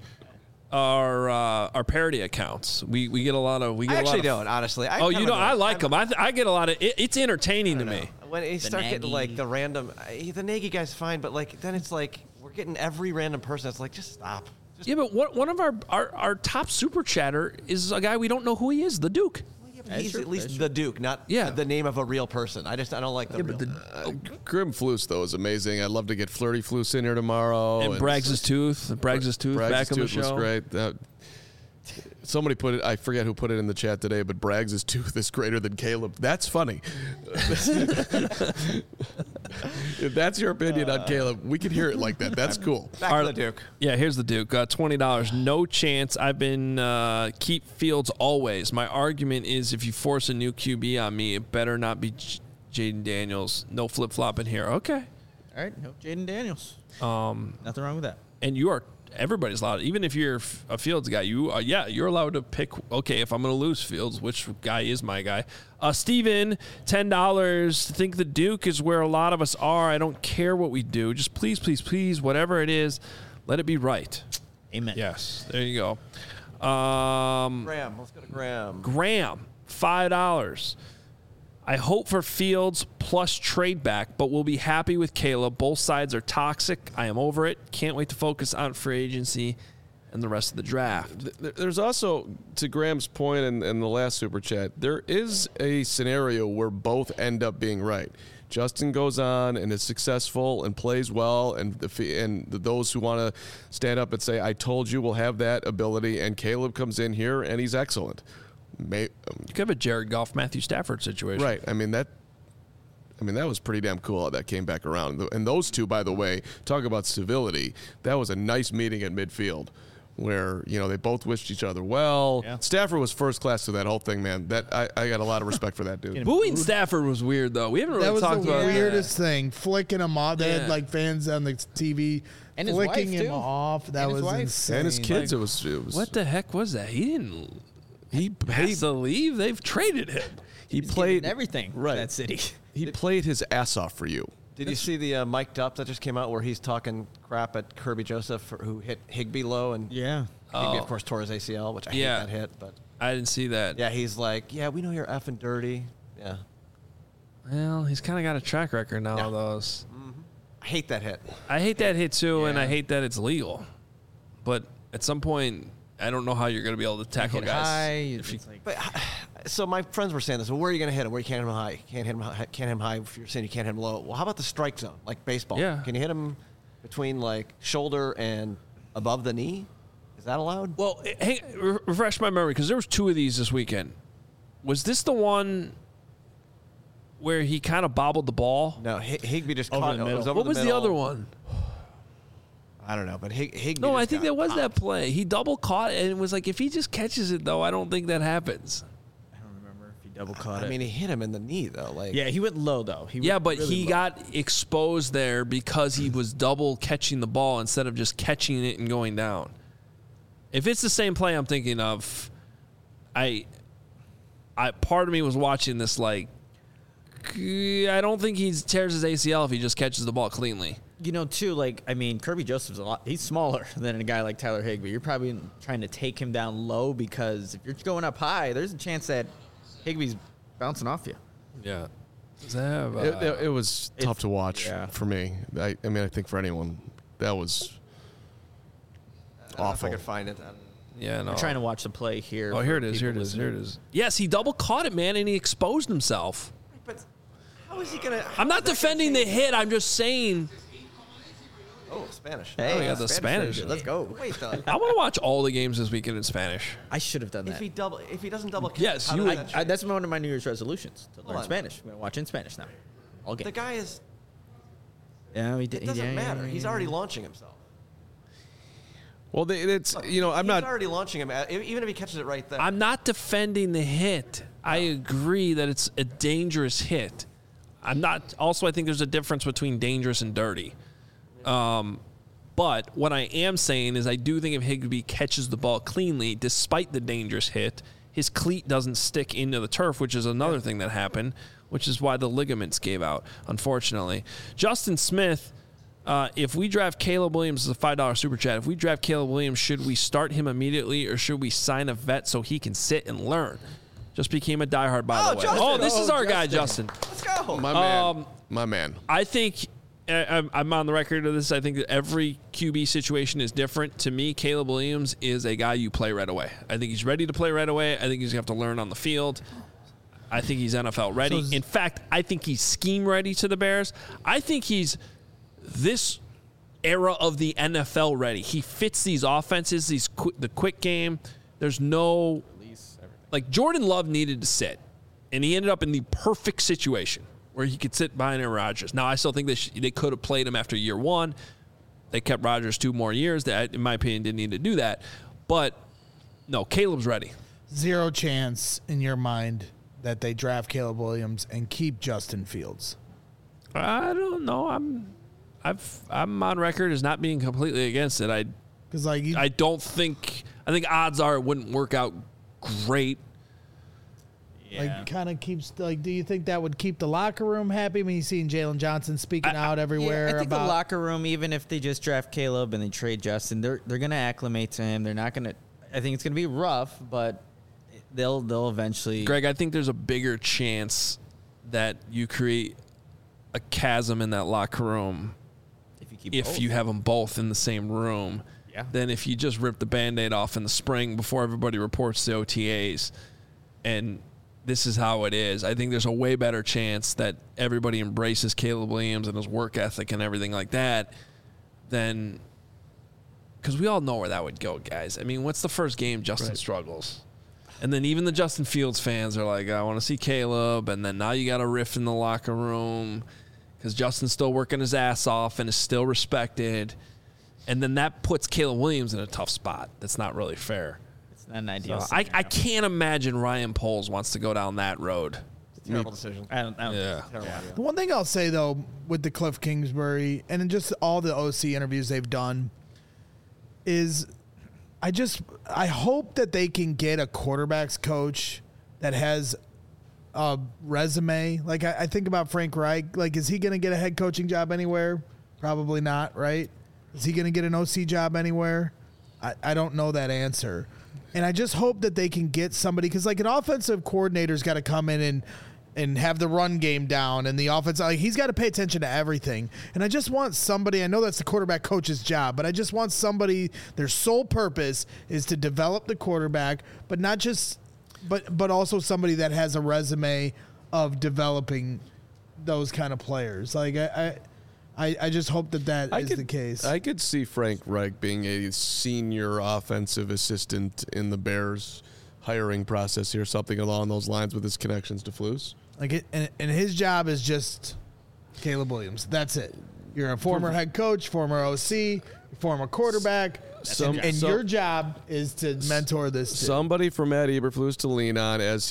our parody accounts. We get a lot of. I actually don't, honestly. You know, I like them. I get a lot of. It's entertaining to me. When you start getting like the random, the Nagy guy's fine, but like then it's like we're getting every random person. It's like, just stop. But one of our top super chatter is a guy we don't know who he is, the Duke. He's at least the Duke, not the name of a real person. I don't like the real. Grim Floose, though, is amazing. I'd love to get Flirty Floose in here tomorrow. And Braggs' Tooth. Braggs' Tooth back on the show. Was great. Somebody put it, I forget who put it in the chat today, but Braggs' tooth is greater than Caleb. That's funny. If that's your opinion on Caleb, we can hear it like that. That's cool. Back to the Duke. Yeah, here's the Duke. $20. No chance. I've been keep Fields always. My argument is, if you force a new QB on me, it better not be Jaden Daniels. No flip-flopping here. Okay. All right. No Jaden Daniels. Nothing wrong with that. And you are... Everybody's allowed, even if you're a Fields guy, you're allowed to pick, okay, if I'm going to lose Fields, which guy is my guy? Steven, $10. Think the Duke is where a lot of us are. I don't care what we do. Just please, please, please, whatever it is, let it be right. Amen. Yes, there you go. Graham. Let's go to Graham. Graham, $5. I hope for Fields plus trade back, but we'll be happy with Caleb. Both sides are toxic. I am over it. Can't wait to focus on free agency and the rest of the draft. There's also, to Graham's point in the last Super Chat, there is a scenario where both end up being right. Justin goes on and is successful and plays well, and those who want to stand up and say, I told you, will have that ability, and Caleb comes in here and he's excellent. You could have a Jared Goff, Matthew Stafford situation. Right. I mean, that was pretty damn cool how that came back around. And those two, by the way, talk about civility. That was a nice meeting at midfield where, they both wished each other well. Yeah. Stafford was first class to that whole thing, man. That I got a lot of respect for that dude. Booing Stafford was weird, though. We haven't really talked about that. That was the weirdest thing. Flicking him off. They had fans on the TV and flicking him off. That was insane. And his kids, it was. What the heck was that? He didn't. He has to leave. They've traded him. He's played everything right. That city. He played his ass off for you. Did you see the Mic'd Up that just came out where he's talking crap at Kirby Joseph who hit Higbee low? And Higbee, of course, tore his ACL, which I hate that hit. But I didn't see that. Yeah, he's like, we know you're effing dirty. Yeah. Well, he's kind of got a track record now of those. Mm-hmm. I hate that hit. I hate that hit, too, and I hate that it's legal. But at some point, I don't know how you're going to be able to tackle guys. So my friends were saying this. Well, where are you going to hit him? Where you can't hit him high? Can't hit him high if you're saying you can't hit him low. Well, how about the strike zone, like baseball? Yeah. Can you hit him between shoulder and above the knee? Is that allowed? Well, refresh my memory because there was 2 of these this weekend. Was this the one where he kind of bobbled the ball? No, Higbee just over caught the middle. What was the other one? I don't know, but Higbee. No, I think that was that play. He double caught it, and it was like, if he just catches it, though, I don't think that happens. I don't remember if he double caught it. I mean, he hit him in the knee, though. He went low, though. But he got exposed there because he was double catching the ball instead of just catching it and going down. If it's the same play I'm thinking of, part of me was watching this I don't think he tears his ACL if he just catches the ball cleanly. Kirby Joseph's he's smaller than a guy like Tyler Higbee. You're probably trying to take him down low because if you're going up high, there's a chance that Higbee's bouncing off you. Yeah. It was tough to watch for me. I think for anyone, that was awful. I don't know if I could find it. Yeah, no. I'm trying to watch the play here. Oh, here it is. Yes, he double caught it, man, and he exposed himself. But how is he going to... I'm not defending the hit. I'm just saying... Oh, Spanish. Hey, we got the Spanish. Let's go. Wait, though. I want to watch all the games this weekend in Spanish. I should have done that. If he doesn't double catch, yes, you would. That's one of my New Year's resolutions to learn Spanish. I'm going to watch in Spanish now. All game. The guy is... Yeah, it doesn't matter. He's already launching himself. Well, it's I'm not... He's already launching him, even if he catches it right there. I'm not defending the hit. I agree that it's a dangerous hit. I'm not... Also, I think there's a difference between dangerous and dirty. But what I am saying is I do think if Higbee catches the ball cleanly, despite the dangerous hit, his cleat doesn't stick into the turf, which is another thing that happened, which is why the ligaments gave out, unfortunately. Justin Smith, if we draft Caleb Williams, is a $5 super chat. If we draft Caleb Williams, should we start him immediately or should we sign a vet so he can sit and learn? Just became a diehard, by the way. Justin. This is our guy, Justin. Let's go. My man. I think... I'm on the record of this. I think that every QB situation is different. To me, Caleb Williams is a guy you play right away. I think he's ready to play right away. I think he's going to have to learn on the field. I think he's NFL ready. In fact, I think he's scheme ready to the Bears. I think he's this era of the NFL ready. He fits these offenses, the quick game. There's no... Jordan Love needed to sit, and he ended up in the perfect situation where he could sit behind Aaron Rodgers. Now, I still think they could have played him after year one. They kept Rodgers 2 more years. That, in my opinion, didn't need to do that. But, no, Caleb's ready. Zero chance in your mind that they draft Caleb Williams and keep Justin Fields. I don't know. I'm on record as not being completely against it. I think odds are it wouldn't work out great. Yeah. Kind of keeps, do you think that would keep the locker room happy? I mean, you're seeing Jalen Johnson speaking out everywhere. I think the locker room, even if they just draft Caleb and they trade Justin, they're going to acclimate to him. They're not going to, I think it's going to be rough, but they'll eventually. Greg, I think there's a bigger chance that you create a chasm in that locker room if you have them both in the same room. Yeah. Than if you just rip the Band-Aid off in the spring before everybody reports the OTAs. And this is how it is. I think there's a way better chance that everybody embraces Caleb Williams and his work ethic and everything like that than – because we all know where that would go, guys. I mean, what's the first game Justin struggles? And then even the Justin Fields fans are like, I want to see Caleb. And then now you got a rift in the locker room because Justin's still working his ass off and is still respected. And then that puts Caleb Williams in a tough spot. That's not really fair. It's not an ideal. So I can't imagine Ryan Poles wants to go down that road. It's a terrible decision. I don't Yeah. The one thing I'll say, though, with the Cliff Kingsbury and in just all the OC interviews they've done is I hope that they can get a quarterback's coach that has a resume. Like, I think about Frank Reich. Like, is he going to get a head coaching job anywhere? Probably not, right? Is he going to get an OC job anywhere? I don't know that answer. And I just hope that they can get somebody, because like an offensive coordinator's got to come in and have the run game down, and the offense, like, he's got to pay attention to everything. And I just want somebody, I know that's the quarterback coach's job, but I just want somebody, their sole purpose is to develop the quarterback, but not just, but also somebody that has a resume of developing those kind of players. Like, I just hope that is the case. I could see Frank Reich being a senior offensive assistant in the Bears hiring process here, something along those lines with his connections to Flus. Like and his job is just Caleb Williams. That's it. You're a former head coach, former OC, former quarterback, and your job is to mentor this kid. Somebody for Matt Eberflus to lean on as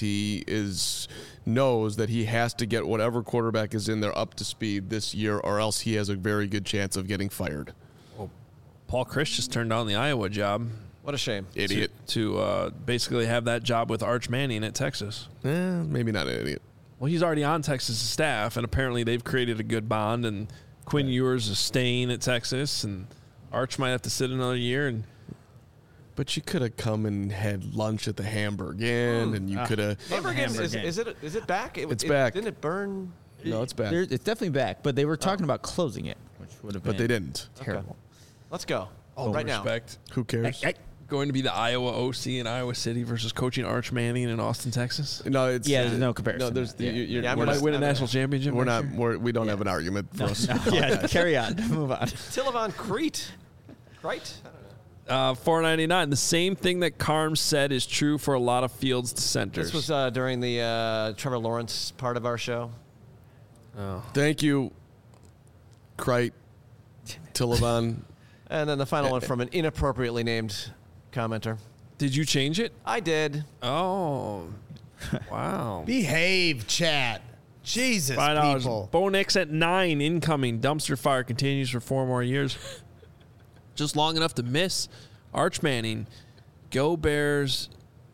knows that he has to get whatever quarterback is in there up to speed this year, or else he has a very good chance of getting fired. Well, Paul Chryst just turned down the Iowa job. What a shame. Idiot. To basically have that job with Arch Manning at Texas. Maybe not an idiot. Well, he's already on Texas' staff, and apparently they've created a good bond, and Quinn Ewers is staying at Texas, and Arch might have to sit another year. But you could have come and had lunch at the Hamburg Inn, and you could have. Hamburg Inn, is it back? It's back. Didn't it burn? No, it's back. It's definitely back, but they were talking about closing it, which would have been. But they didn't. Terrible. Okay. Let's go. Right respect. Now. Who cares? Going to be the Iowa OC in Iowa City versus coaching Arch Manning in Austin, Texas? No, it's there's no comparison. No, there's we might win a national championship. We don't have an argument for us. Yeah, carry on. Move on. Tilavon Crete. Right? $4.99. The same thing that Carm said is true for a lot of Fields to centers. This was during the Trevor Lawrence part of our show. Oh. Thank you, Crite, Tilavon. And then the final one from an inappropriately named commenter. Did you change it? I did. Oh, wow. Behave, chat. Jesus, $5. people. Bo Nix at 9 incoming. Dumpster fire continues for 4 more years. Just long enough to miss Arch Manning. Go Bears.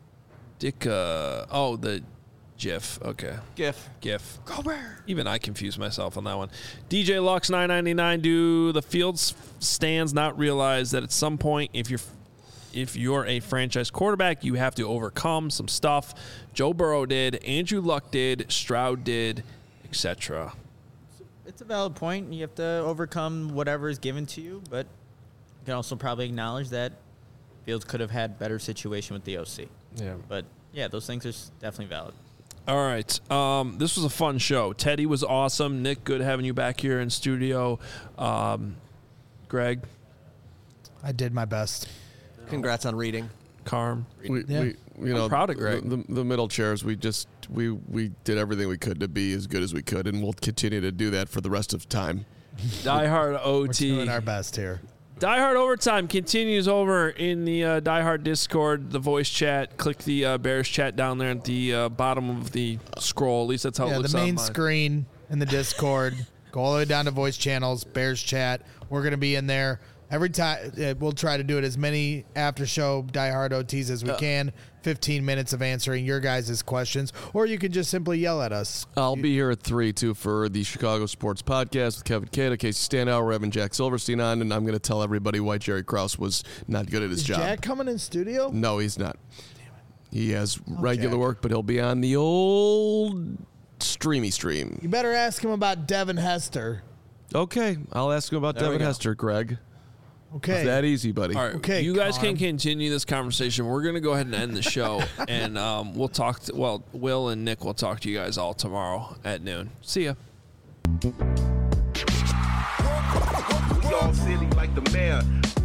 The GIF. Okay. GIF. Go Bears. Even I confused myself on that one. DJ Lux $9.99. Do the Fields stands not realize that at some point, if you're a franchise quarterback, you have to overcome some stuff? Joe Burrow did, Andrew Luck did, Stroud did, etc. It's a valid point. You have to overcome whatever is given to you, but you can also probably acknowledge that Fields could have had better situation with the OC. Yeah. But, yeah, those things are definitely valid. All right. This was a fun show. Teddy was awesome. Nick, good having you back here in studio. Greg? I did my best. Congrats on reading. Carm? I'm proud of Greg. The middle chairs, we did everything we could to be as good as we could, and we'll continue to do that for the rest of time. Die Hard OT. We're doing our best here. Die Hard Overtime continues over in the Die Hard Discord, the voice chat. Click the Bears chat down there at the bottom of the scroll. At least that's how it looks the main on screen in the Discord. Go all the way down to voice channels, Bears chat. We're going to be in there Every time we'll try to do it as many after show diehard OTs as we can. 15 minutes of answering your guys' questions, or you can just simply yell at us. I'll be here at 3 too for the Chicago Sports Podcast with Kevin Cato, Casey Standout, we're having Jack Silverstein on, and I'm going to tell everybody why Jerry Krause was not good at his job. Is Jack coming in studio? No, he's not. He has regular work, but he'll be on the old streamy stream. You better ask him about Devin Hester. Okay, I'll ask him about Devin Hester, Greg. Okay. It's that easy, buddy. All right. Okay, you guys can continue this conversation. We're going to go ahead and end the show, and we'll talk. Will and Nick will talk to you guys all tomorrow at noon. See ya. We all silly like the mayor.